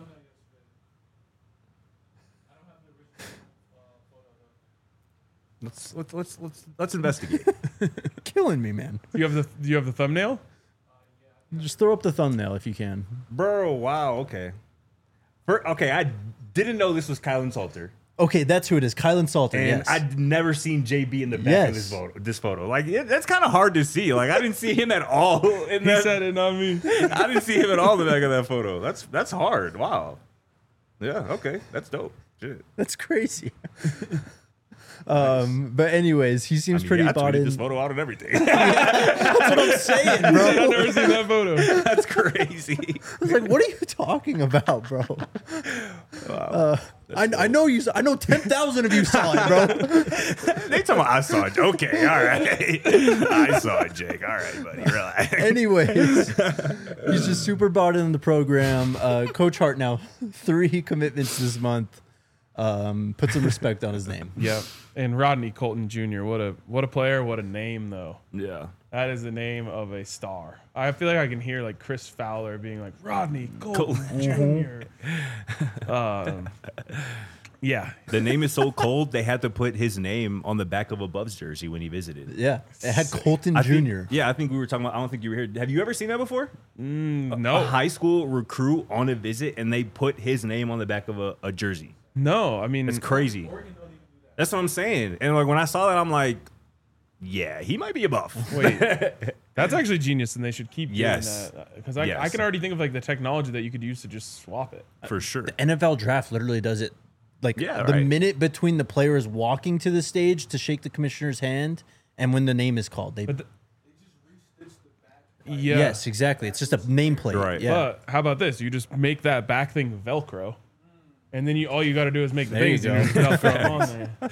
Let's let's let's let's let's investigate. Killing me, man. Do you have the Do you have the thumbnail? Just throw up the thumbnail if you can. Bro, wow, okay. For, okay, I didn't know this was Kylan Salter. Okay, that's who it is. Kylan Salter. And yes. I'd never seen J B in the back Yes. of this photo. This photo, like it, that's kind of hard to see. Like I didn't see him at all. In He that, said it, not me. I didn't see him at all in the back of that photo. That's that's hard. Wow. Yeah. Okay. That's dope. Shit. That's crazy. um, but anyways, he seems I mean, pretty yeah, I bought tweeted in. this photo out and everything. That's what I'm saying, I've bro. never seen that photo. that's crazy. I was like, "What are you talking about, bro?" Uh, I, I know you. I know ten thousand of you saw it, bro. They talking about I saw it. Okay. All right. I saw it, Jake. All right, buddy. Relax. Anyways, he's just super bought in the program. Uh, Coach Hart now three commitments this month. Um, put some respect on his name. Yep. And Rodney Colton Junior What a what a player. What a name though. Yeah. That is the name of a star. I feel like I can hear like Chris Fowler being like Rodney Colton Junior um, yeah. The name is so cold they had to put his name on the back of a Bubs jersey when he visited. Yeah, it had Colton I think- Junior yeah, I think we were talking about. I don't think you were here. Have you ever seen that before? Mm, A no. high school recruit on a visit, and they put his name on the back of a, a jersey. No. I mean, It's crazy. That's what I'm saying. And like when I saw that, I'm like, yeah, he might be a buff. wait. That's actually genius, and they should keep Yes. doing that because I, I Yes. can already think of like the technology that you could use to just swap it. For sure. N F L draft literally does it. Like Yeah, the right. minute between the players walking to the stage to shake the commissioner's hand and when the name is called, they. But the, yeah. Yes, exactly. It's just a nameplate. Right. Yeah. But how about this? You just make that back thing Velcro, and then you all you got to do is make the There you things and go. you just throw them on there.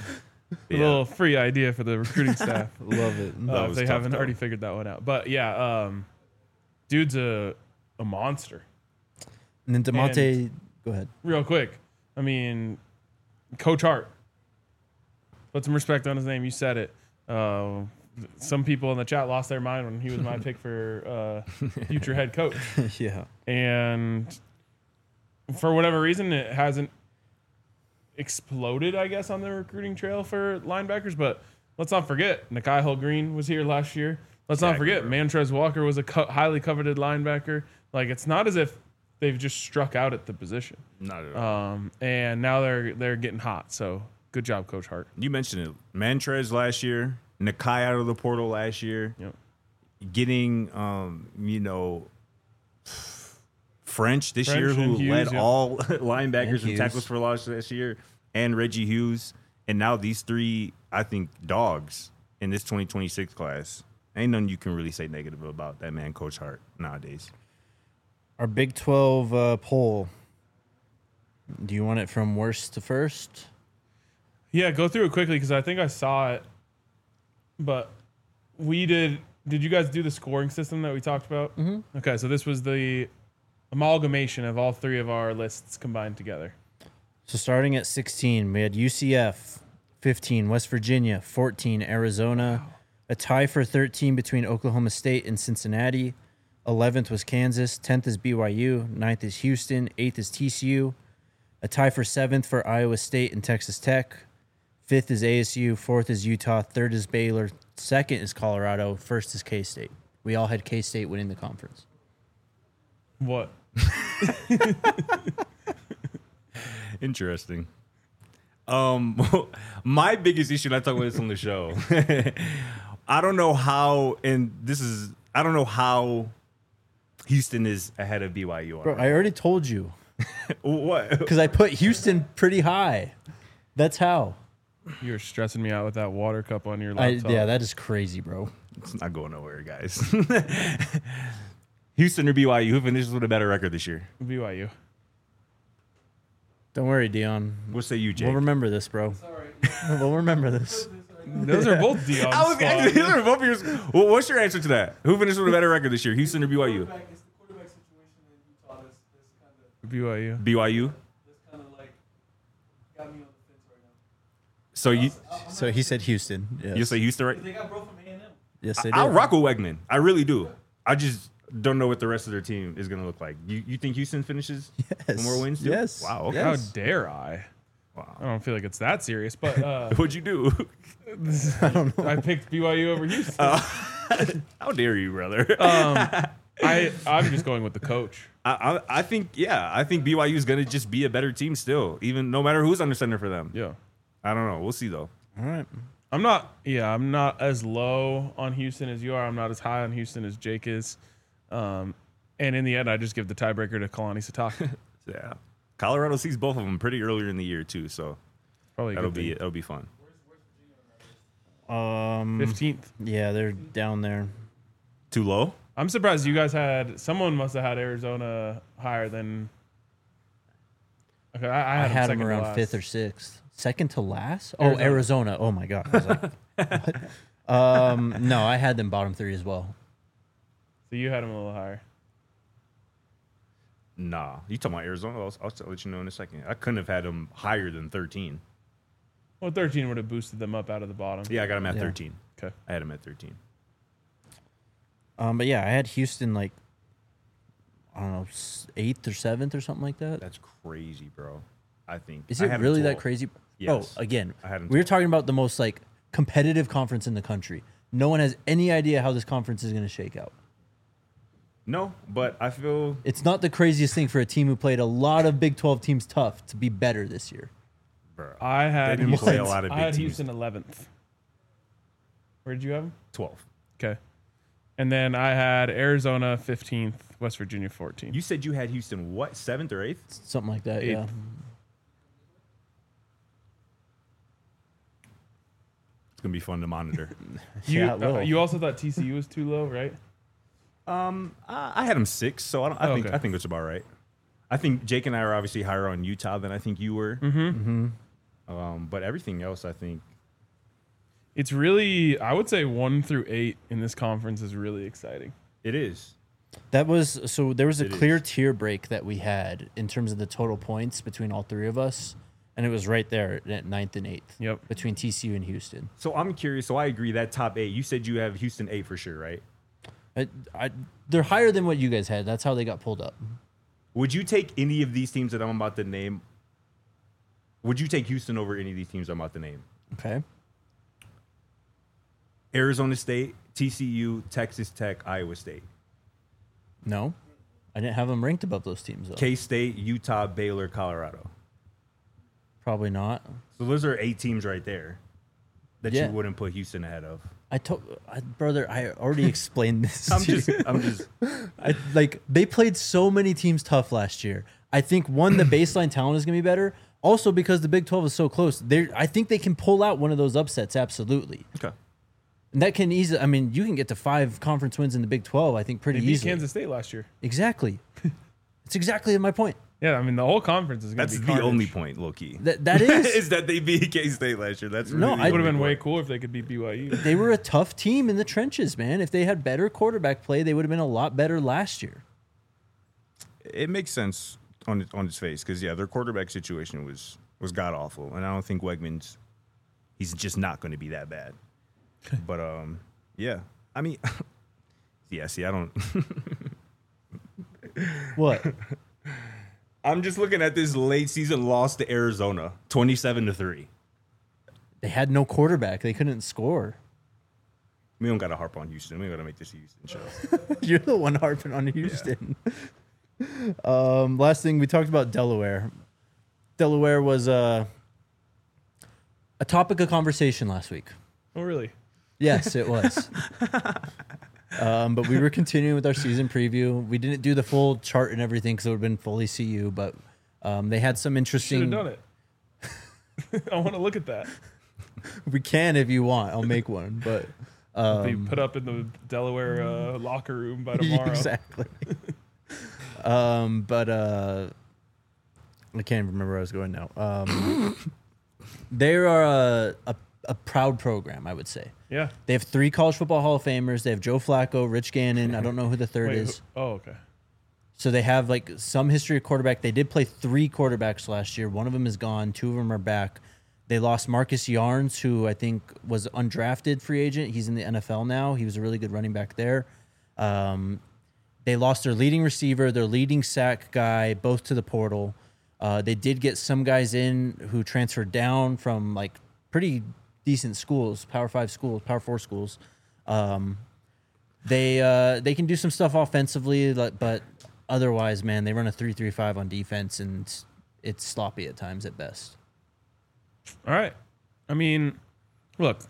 A little free idea for the recruiting staff. Love it. Uh, if was they tough, haven't though. already figured that one out. But yeah, um, dude's a a monster. And then Demonte, go ahead. Real quick, I mean, Coach Hart. Put some respect on his name. You said it. Uh, some people in the chat lost their mind when he was my pick for uh, future head coach, Yeah. and for whatever reason, it hasn't exploded, I guess, on the recruiting trail for linebackers. But let's not forget, Nakai Hill Green was here last year. Let's not Exactly, forget, bro. Mantrez Walker was a co- highly coveted linebacker. Like, it's not as if they've just struck out at the position. Not at all. Um, and now they're they're getting hot. So good job, Coach Hart. You mentioned it. Mantrez last year, Nakai out of the portal last year, Yep. getting, um, you know, French this French year, who and Hughes, led yeah. all linebackers And and Hughes. tackles for loss this year, and Reggie Hughes. And now these three, I think, dogs in this twenty twenty-six class. Ain't nothing you can really say negative about that man, Coach Hart, nowadays. Our Big twelve uh, poll. Do you want it from worst to first? Yeah, go through it quickly because I think I saw it. But we did. Did you guys do the scoring system that we talked about? Mm-hmm. Okay, so this was the amalgamation of all three of our lists combined together. So starting at sixteen, we had U C F, fifteen, West Virginia, fourteen, Arizona, a tie for thirteen between Oklahoma State and Cincinnati. eleventh was Kansas, tenth is B Y U, ninth is Houston, eighth is T C U, a tie for seventh for Iowa State and Texas Tech. fifth is A S U, fourth is Utah, third is Baylor, second is Colorado, first is K-State. We all had K-State winning the conference. What? Interesting. Um, my biggest issue, and I talk about this on the show. I don't know how, and this is, I don't know how Houston is ahead of B Y U. Bro, I already told you. What? Because I put Houston pretty high. That's how. You're stressing me out with that water cup on your I, laptop. yeah, that is crazy, bro. It's not going nowhere, guys. Houston or B Y U, who finishes with a better record this year? B Y U. Don't worry, Dion. What say you, Jake? We'll remember this, bro. We'll remember this. Those are both Dion's I was fault. these are both yours. Well, what's your answer to that? Who finished with a better record this year, Houston or B Y U? Quarterback, it's the quarterback situation in Utah that's, that's kind of B Y U. B Y U. that's kind of like got me on the fence right now. So you So he said Houston. Yes. you say Houston, right? They got bro from A and M. Yes, they did. I'll rock with Wegman. I really do. I just don't know what the rest of their team is going to look like. You you think Houston finishes Yes. with more wins? Too? Yes. Wow. Okay. How Yes. dare I? I Wow. don't feel like it's that serious, but uh, What'd you do? I picked B Y U over Houston. How dare you, brother? um, I I'm just going with the coach. I, I I think yeah. I think B Y U is going to just be a better team still, even no matter who's under center for them. Yeah. I don't know. We'll see though. All right. I'm not. Yeah, I'm not as low on Houston as you are. I'm not as high on Houston as Jake is. Um, and in the end, I just give the tiebreaker to Kalani Sitake. Yeah. Colorado sees both of them pretty earlier in the year too, so Probably a that'll good be thing. that'll be fun. Um. fifteenth. Yeah, they're down there. Too low? I'm surprised you guys had. Someone must have had Arizona higher than. Okay, I, I I, had, had them them second to around last. fifth or sixth. Second to last? Oh, Arizona. Arizona. Oh my god. I was like, what? Um. No, I had them bottom three as well. So you had them a little higher. Nah. You talking about Arizona? I'll, I'll let you know in a second. I couldn't have had them higher than thirteen. Well, thirteen would have boosted them up out of the bottom. Yeah, I got them at Yeah. thirteen. Okay. I had them at thirteen. Um. But yeah, I had Houston like I don't know s- eighth or seventh or something like that. That's crazy, bro. I think. Is I it had 'em really that twelve. crazy? Yes. Oh, again, I had 'em we were twelve. talking about the most like competitive conference in the country. No one has any idea how this conference is going to shake out. No, but I feel It's not the craziest thing for a team who played a lot of Big twelve teams tough to be better this year. bro. I had They didn't Houston, play a lot of I big had teams. Houston eleventh. Where did you have them? twelve. Okay. And then I had Arizona fifteenth, West Virginia fourteenth. You said you had Houston what, seventh or eighth? Something like that, Eighth. yeah. It's gonna be fun to monitor. You, Yeah, it uh, will. you also thought T C U was too low, right? um, I, I had them six, so I, don't, I Oh, think okay. I think it's about right. I think Jake and I are obviously higher on Utah than I think you were. Mm-hmm. Mm-hmm. Um, but everything else, I think It's really, I would say one through eight in this conference is really exciting. It is. That was so there was a It clear is. tier break that we had in terms of the total points between all three of us, and it was right there at ninth and eighth. Yep. Between T C U and Houston. So I'm curious. So I agree that top eight. You said you have Houston eight for sure, right? I, I, they're higher than what you guys had. That's how they got pulled up. Would you take any of these teams that I'm about to name? Would you take Houston over any of these teams I'm about to name? Okay. Arizona State, T C U, Texas Tech, Iowa State, No, I didn't have them ranked above those teams though. K-State, Utah, Baylor, Colorado. Probably not. So those are eight teams right there that Yeah. you wouldn't put Houston ahead of. I told, I, brother, I already explained this. I'm to just, you. I'm just. I, like they played so many teams tough last year. I think one, the baseline talent is going to be better. Also, because the Big twelve is so close, they I think they can pull out one of those upsets. Absolutely, Okay. and that can easily. I mean, you can get to five conference wins in the Big twelve. I think pretty They beat easily. Kansas State last year. Exactly. It's exactly my point. Yeah, I mean, the whole conference is going That's to the be carnage. only point, low key. That that is. is that they beat K-State last year. That's No, really I- It would have the been way point. cool if they could beat B Y U. They were a tough team in the trenches, man. If they had better quarterback play, they would have been a lot better last year. It makes sense on on its face because yeah, their quarterback situation was was god awful, and I don't think Wegmans, he's just not going to be that bad. But um, yeah, I mean, yeah. See, I don't. What? I'm just looking at this late season loss to Arizona, twenty-seven to three. They had no quarterback. They couldn't score. We don't got to harp on Houston. We got to make this a Houston show. You're the one harping on Houston. um, last thing we talked about Delaware. Delaware was uh, a topic of conversation last week. Oh, really? Yes, it was. um, but we were continuing with our season preview. We didn't do the full chart and everything because it would have been fully C U, but um, they had some Should interesting. have done it. I want to look at that. We can if you want. I'll make one, but Be um, put up in the Delaware uh, locker room by tomorrow. exactly. um, but uh, I can't even remember where I was going now. Um, they are a, a a proud program, I would say. Yeah. They have three college football Hall of Famers. They have Joe Flacco, Rich Gannon. I don't know who the third Wait, is. who- oh, okay. So they have like some history of quarterback. They did play three quarterbacks last year. One of them is gone. Two of them are back. They lost Marcus Yarns, who I think was undrafted free agent. He's in the N F L now. He was a really good running back there. Um, they lost their leading receiver, their leading sack guy, both to the portal. Uh, they did get some guys in who transferred down from like pretty decent schools, Power Five schools, Power Four schools. Um, they uh, they can do some stuff offensively, like, but otherwise, man, they run a three three five on defense, and it's sloppy at times at best. All right. I mean, look.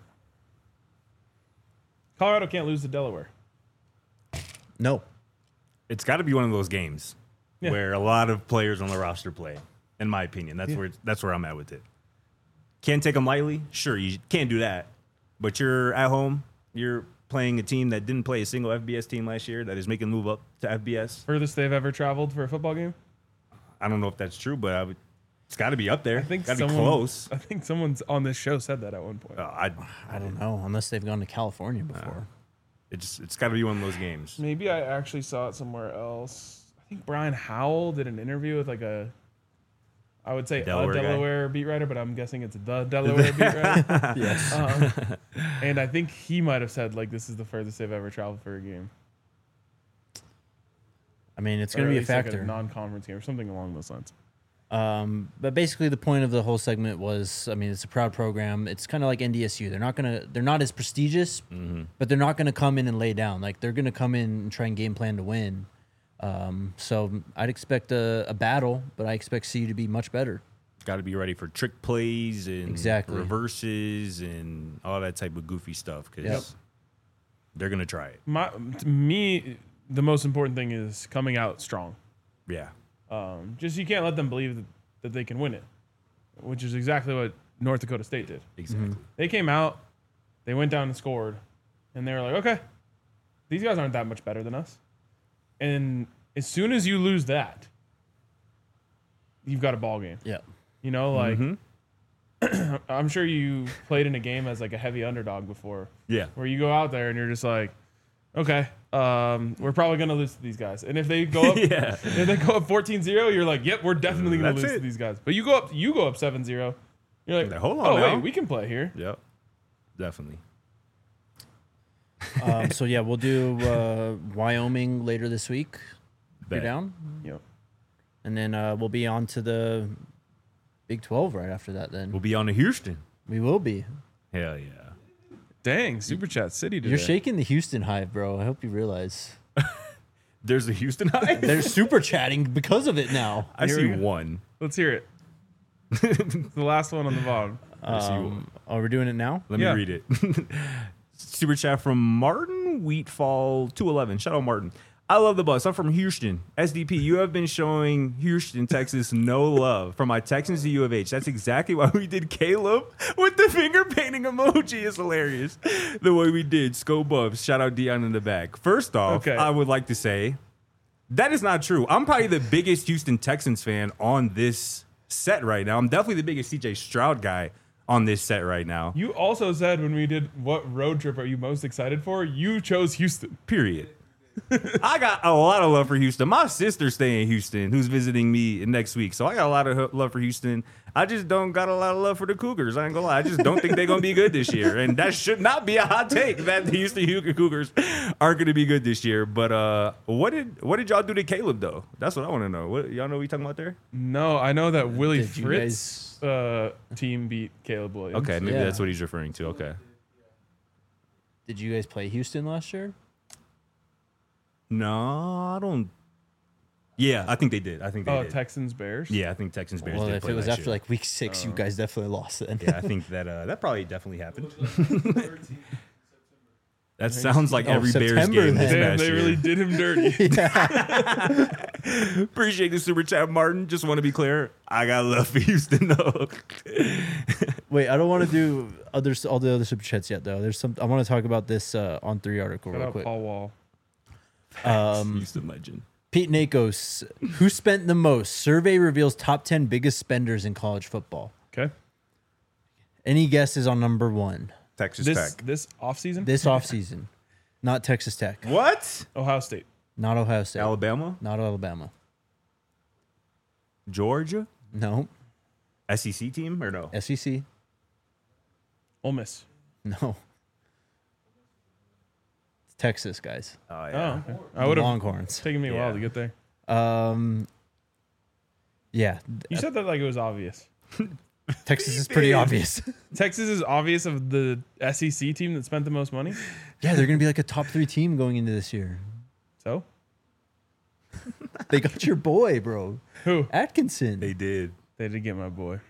Colorado can't lose to Delaware. No, It's got to be one of those games Yeah. where a lot of players on the roster play. In my opinion, that's Yeah. where it's, that's where I'm at with it. Can't take them lightly. Sure, you can't do that. But you're at home. You're playing a team that didn't play a single F B S team last year that is making a move up to F B S. Furthest they've ever traveled for a football game? I don't know if that's true, but I would, it's got to be up there. I think got to be someone, close. I think someone's on this show said that at one point. Uh, I, I don't know unless they've gone to California before. it's it's got to be one of those games. Maybe I actually saw it somewhere else. I think Brian Howell did an interview with like a, I would say Delaware a guy? Delaware beat writer, but I'm guessing it's the Delaware beat writer. Yes. Um, and I think he might have said like this is the furthest they've ever traveled for a game. I mean, it's Or going to at be a least, like, factor. non-conference game or something along those lines. Um, but basically, the point of the whole segment was, I mean, it's a proud program. It's kind of like N D S U. They're not gonna, they're not as prestigious, but they're not gonna come in and lay down. Like they're gonna come in and try and game plan to win. Um, so I'd expect a, a battle, but I expect C U to be much better. Got to be ready for trick plays and Exactly. reverses and all that type of goofy stuff because Yep. they're gonna try it. My, to me, the most important thing is coming out strong. Yeah. Um, just you can't let them believe that, that they can win it, which is exactly what North Dakota State did. Exactly. They came out, they went down and scored, and they were like, okay, these guys aren't that much better than us. And as soon as you lose that, you've got a ball game. Yeah. You know, like Mhm. I'm sure you played in a game as like a heavy underdog before, Yeah. where you go out there and you're just like, okay, um, we're probably gonna lose to these guys. And if they go up, Yeah. if they go up fourteen zero, you're like, yep, we're definitely gonna That's lose it. to these guys. But you go up, you go up seven zero, you're like, Hold on oh now. wait, we can play here. Yep. Definitely. Um, so yeah, we'll do uh, Wyoming later this week. You're Bet. down, Yep. and then uh, we'll be on to the Big twelve right after that. Then We'll be on to Houston. we will be. Hell yeah. Dang, Super Chat City today. You're shaking the Houston hive, bro. I hope you realize There's a Houston high. they're super chatting because of it now. I Here see we go. one. Let's hear it. It's the last one on the bottom. I see one. Um, oh, we're doing it now. Let Yeah. me read it. Super chat from Martin Wheatfall two eleven. Shout out Martin. I love the bus. I'm from Houston. S D P, you have been showing Houston, Texas no love. From my Texans to U of H. That's exactly why we did Caleb with the finger painting emoji. Is hilarious. The way we did. Scope Bubs. Shout out Dion in the back. First off, Okay. I would like to say that is not true. I'm probably the biggest Houston Texans fan on this set right now. I'm definitely the biggest C J Stroud guy on this set right now. You also said when we did what road trip are you most excited for? You chose Houston. Period. I got a lot of love for Houston. My sister's staying in Houston, who's visiting me next week. So I got a lot of ho- love for Houston. I just don't got a lot of love for the Cougars. I ain't gonna lie. I just don't think they're gonna be good this year. And that should not be a hot take that the Houston Hu- Cougars aren't gonna be good this year. But uh, what did what did y'all do to Caleb though? That's what I want to know. What y'all know what you talking about there? No, I know that Willie Did you Fritz uh, team beat Caleb Williams. Okay, maybe Yeah. that's what he's referring to. Okay. Did you guys play Houston last year? No, I don't. Yeah, I think they did. I think they Oh, did. Texans Bears. Yeah, I think Texans Bears Well, did if play it was last after year. like week six, you guys definitely lost then. Yeah, I think that uh, that probably definitely happened. That sounds like Oh, every Bears September game this then. Damn, past they year. really did him dirty. Appreciate the super chat, Martin. Just want to be clear, I got love for Houston though. Wait, I don't want to do other all the other super chats yet though. There's some I want to talk about this uh, on three article Shout real out quick. Paul Wall. Um, Houston legend. Pete Nakos, who spent the most? Survey reveals top ten biggest spenders in college football. Okay. Any guesses on number one Texas This Tech. this offseason? this offseason? Not Texas Tech, What? Ohio State. not Ohio State, Alabama, not Alabama. Georgia, No, S E C team or no? S E C. Ole Miss. No, it's Texas guys. Oh Oh, yeah. okay. I would have Longhorns. taken me a Yeah. while to get there. Um, yeah, You said that like it was obvious. Texas is pretty obvious. Texas is obvious of the S E C team that spent the most money. Yeah, they're gonna be like a top three team going into this year. So They got your boy, bro, who? Atkinson. They did. They did get my boy.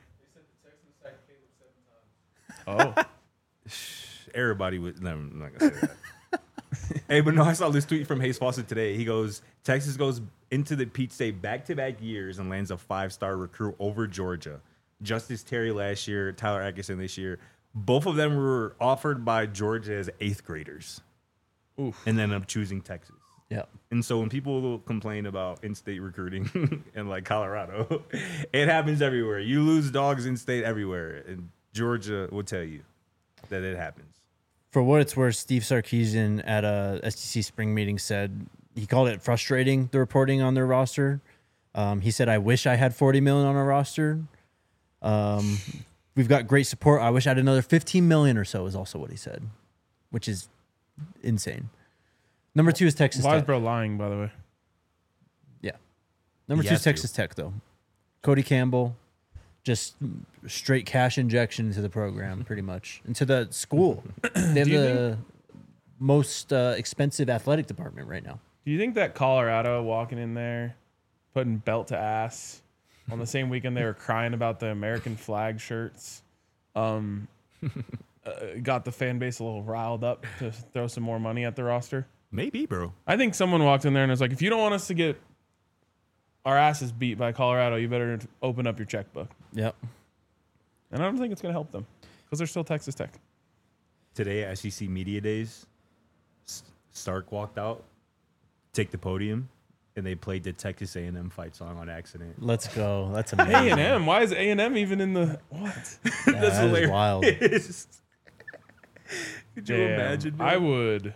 Oh, Everybody would. No, I'm not gonna say that. Hey, but no, I saw this tweet from Hayes Fawcett today. He goes, Texas goes into the Peach State back-to-back years and lands a five-star recruit over Georgia. Justice Terry last year, Tyler Atkinson this year. Both of them were offered by Georgia as eighth graders oof. and then ended up choosing Texas. Yeah. And so when people complain about in-state recruiting in like Colorado, it happens everywhere. You lose dogs in-state everywhere. And Georgia will tell you that it happens. For what it's worth, Steve Sarkisian at a S T C spring meeting said he called it frustrating, the reporting on their roster. Um, he said, I wish I had forty million on our roster. Um, we've got great support. I wish I had another fifteen million or so is also what he said, which is insane. Number two is Texas Why is Tech. bro lying? By the way, Yeah. Number He two has is to. Texas Tech, though. Cody Campbell, just straight cash injection into the program, pretty much, into the school. They have Do you the most uh, expensive athletic department right now. do you think that Colorado walking in there, putting belt to ass, on the same weekend they were crying about the American flag shirts, um, uh, got the fan base a little riled up to throw some more money at the roster? Maybe, bro. I think someone walked in there and was like, if you don't want us to get our asses beat by Colorado, you better open up your checkbook. Yep. And I don't think it's going to help them because they're still Texas Tech. Today at S E C Media Days, S- Stark walked out, take the podium, and they played the Texas A and M fight song on accident. Let's go. That's A amazing. and M. Why is A and M even in the what? Yeah, that is wild. Could you Damn, imagine? dude? I would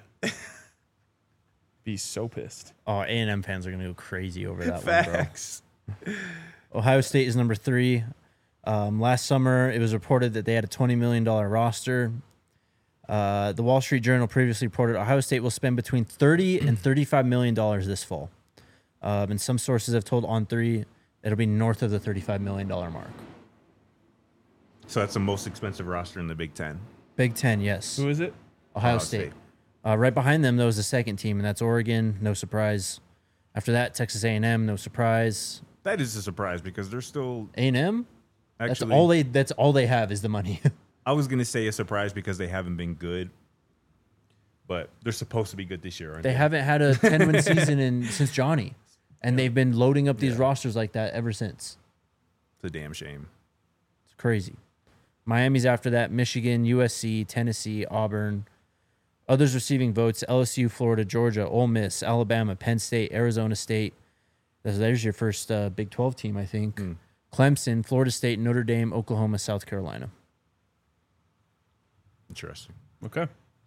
be so pissed. Oh, A and M fans are gonna go crazy over that Facts. one, bro. Ohio State is number three. Um, last summer, it was reported that they had a twenty million dollar roster. Uh, the Wall Street Journal previously reported Ohio State will spend between thirty and thirty-five million dollars this fall. Um, and some sources have told On Three it'll be north of the thirty-five million dollar mark. So that's the most expensive roster in the Big Ten. Big Ten, yes. Who is it? Ohio, Ohio State. State. Uh, right behind them, though, is the second team, and that's Oregon. No surprise. After that, Texas A and M. No surprise. That is a surprise because they're still A and M. That's actually. all they. That's all they have is the money. I was gonna say a surprise because they haven't been good, but they're supposed to be good this year, aren't they? They haven't had a ten win season in since Johnny, and they've been loading up these Yeah. rosters like that ever since. It's a damn shame. It's crazy. Miami's after that. Michigan, U S C, Tennessee, Auburn. Others receiving votes: L S U, Florida, Georgia, Ole Miss, Alabama, Penn State, Arizona State. There's, there's your first uh, Big twelve team, I think. Mm. Clemson, Florida State, Notre Dame, Oklahoma, South Carolina. Interesting. Okay.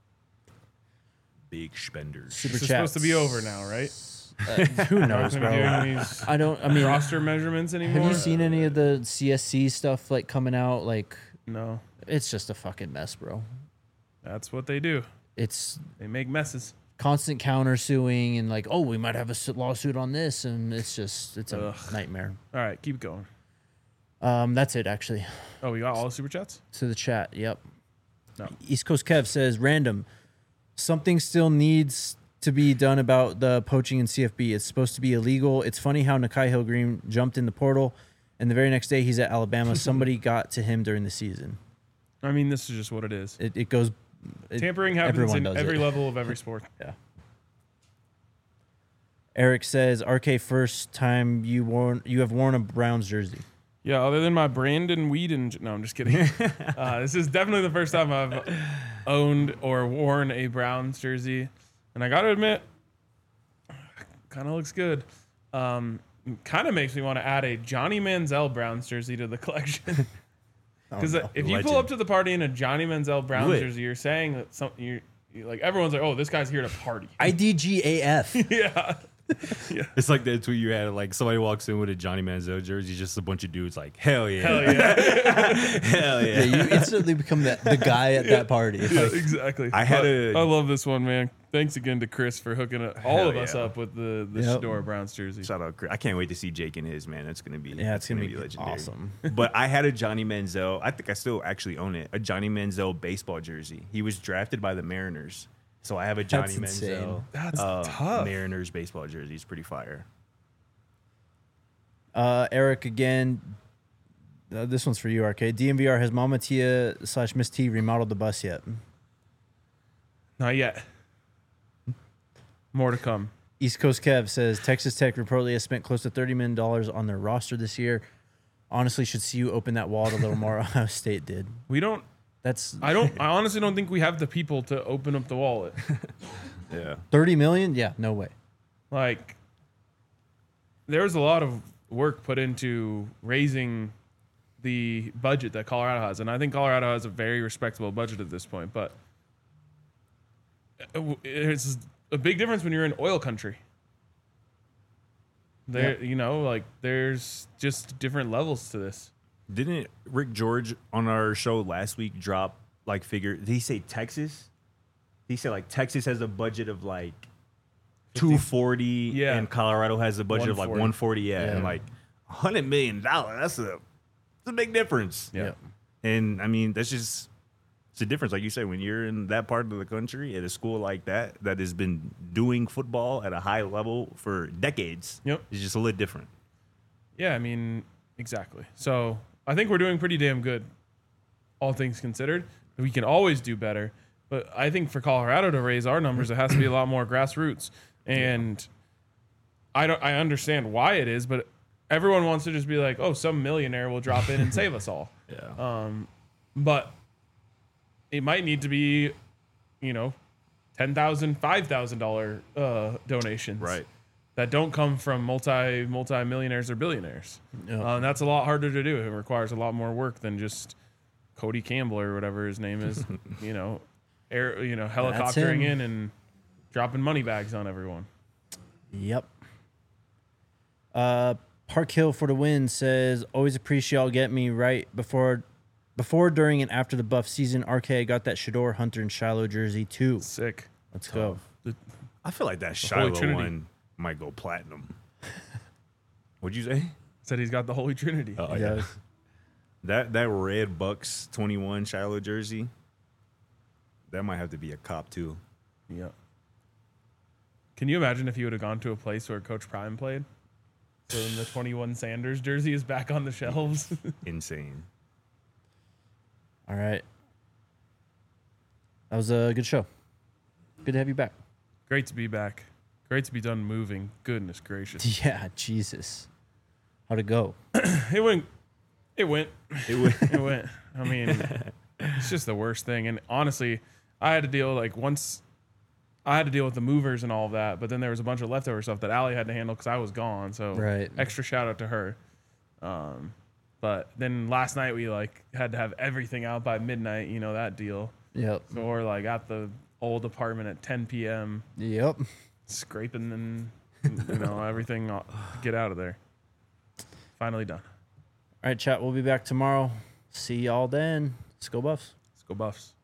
Big spenders. Super This is chats. supposed to be over now, right? Uh, who Not knows, gonna be bro? doing these I don't. I mean, roster measurements anymore. have you seen any of the C S C stuff like coming out? Like, No. it's just a fucking mess, bro. That's what they do. It's They make messes. constant countersuing and like, oh, we might have a su- lawsuit on this, and it's just it's a Ugh. nightmare. All right, keep going. Um, that's it actually. Oh, we got all the super chats? To the chat, yep. No. East Coast Kev says, random. Something still needs to be done about the poaching in C F B. It's supposed to be illegal. It's funny how Nakai Hill Green jumped in the portal, and the very next day he's at Alabama. Somebody got to him during the season. I mean, this is just what it is. It, it goes. It, Tampering happens everyone in does every it. level of every sport. Yeah. Eric says, R K, first time you worn you have worn a Browns jersey. Yeah, other than my Brandon Whedon. No, I'm just kidding. uh, this is definitely the first time I've owned or worn a Browns jersey. And I got to admit, kind of looks good. Um, kind of makes me want to add a Johnny Manziel Browns jersey to the collection. Because Oh, no. if you pull Legend. up to the party in a Johnny Manziel Browns Would. jersey, you're saying that some, you're, you're like, everyone's like, oh, this guy's here to party. I D G A F. yeah. It's like that tweet you had. Like somebody walks in with a Johnny Manziel jersey, just a bunch of dudes like, hell yeah, Hell yeah. hell yeah. Yeah, you instantly become the, the guy at that party. Yeah, Like, exactly. I had But a- I love this one, man. Thanks again to Chris for hooking it, all Hell of us yeah. up with the the Yep. Shador Browns jersey. Shout out, Chris. I can't wait to see Jake and his man. That's gonna be yeah, it's gonna, be, legendary. awesome. But I had a Johnny Manziel. I think I still actually own it. A Johnny Manziel baseball jersey. He was drafted by the Mariners, so I have a Johnny That's insane. Manziel. That's uh, tough. Mariners baseball jersey. It's pretty fire. Uh, Eric again. Uh, this one's for you, R K. D M V R has Mama Tia slash Miss T remodeled the bus yet? Not yet. More to come. East Coast Kev says Texas Tech reportedly has spent close to thirty million dollars on their roster this year. Honestly, should see you open that wallet a little more. Ohio State did. We don't. That's I don't. I honestly don't think we have the people to open up the wallet. Yeah. thirty million. Yeah, no way. Like, there's a lot of work put into raising the budget that Colorado has, and I think Colorado has a very respectable budget at this point. But it's a big difference when you're in oil country. There, you know, like there's just different levels to this. Didn't Rick George on our show last week drop like figure? Did he say Texas? He said like Texas has a budget of like two forty, Yeah. and Colorado has a budget of like one one forty. forty. Yeah, Yeah. and like hundred million dollars. That's a that's a big difference. Yeah. And I mean that's just it's a difference. Like you said, when you're in that part of the country at a school like that that has been doing football at a high level for decades, Yep. it's just a little different. Yeah, I mean, exactly. So I think we're doing pretty damn good, all things considered. We can always do better, but I think for Colorado to raise our numbers, it has to be a lot more grassroots. And I don't, I understand why it is, but everyone wants to just be like, oh, some millionaire will drop in and save us all. Yeah. Um, but it might need to be, you know, ten thousand, five thousand dollar uh, donations, Right. that don't come from multi multi millionaires or billionaires. Yep. Uh, and that's a lot harder to do. It requires a lot more work than just Cody Campbell or whatever his name is. you know, air you know helicoptering him. in and dropping money bags on everyone. Yep. Uh, Park Hill for the win says, always appreciate y'all get me right before, before, during, and after the Buff season. R K got that Shador, Hunter, and Shiloh jersey too. Sick. Let's go. I feel like that Holy Shiloh Trinity. one might go platinum. What'd you say? Said he's got the Holy Trinity. Oh, Yeah. That that red Bucks twenty-one Shiloh jersey, that might have to be a cop too. Yep. Can you imagine if you would have gone to a place where Coach Prime played? So then the twenty-one Sanders jersey is back on the shelves. Insane. All right. That was a good show. Good to have you back. Great to be back. Great to be done moving. Goodness gracious. Yeah, Jesus. How'd it go? It went. It went. It was It went. I mean, it's just the worst thing. And honestly, I had to deal like once. I had to deal with the movers and all of that, but then there was a bunch of leftover stuff that Allie had to handle because I was gone. So Right. extra shout out to her. Um, but then last night we like had to have everything out by midnight. You know that deal. Yep. So we're like at the old apartment at ten p.m. Yep. scraping and you know everything to get out of there. Finally done. All right, chat. We'll be back tomorrow. See y'all then. Let's go Buffs. Let's go Buffs.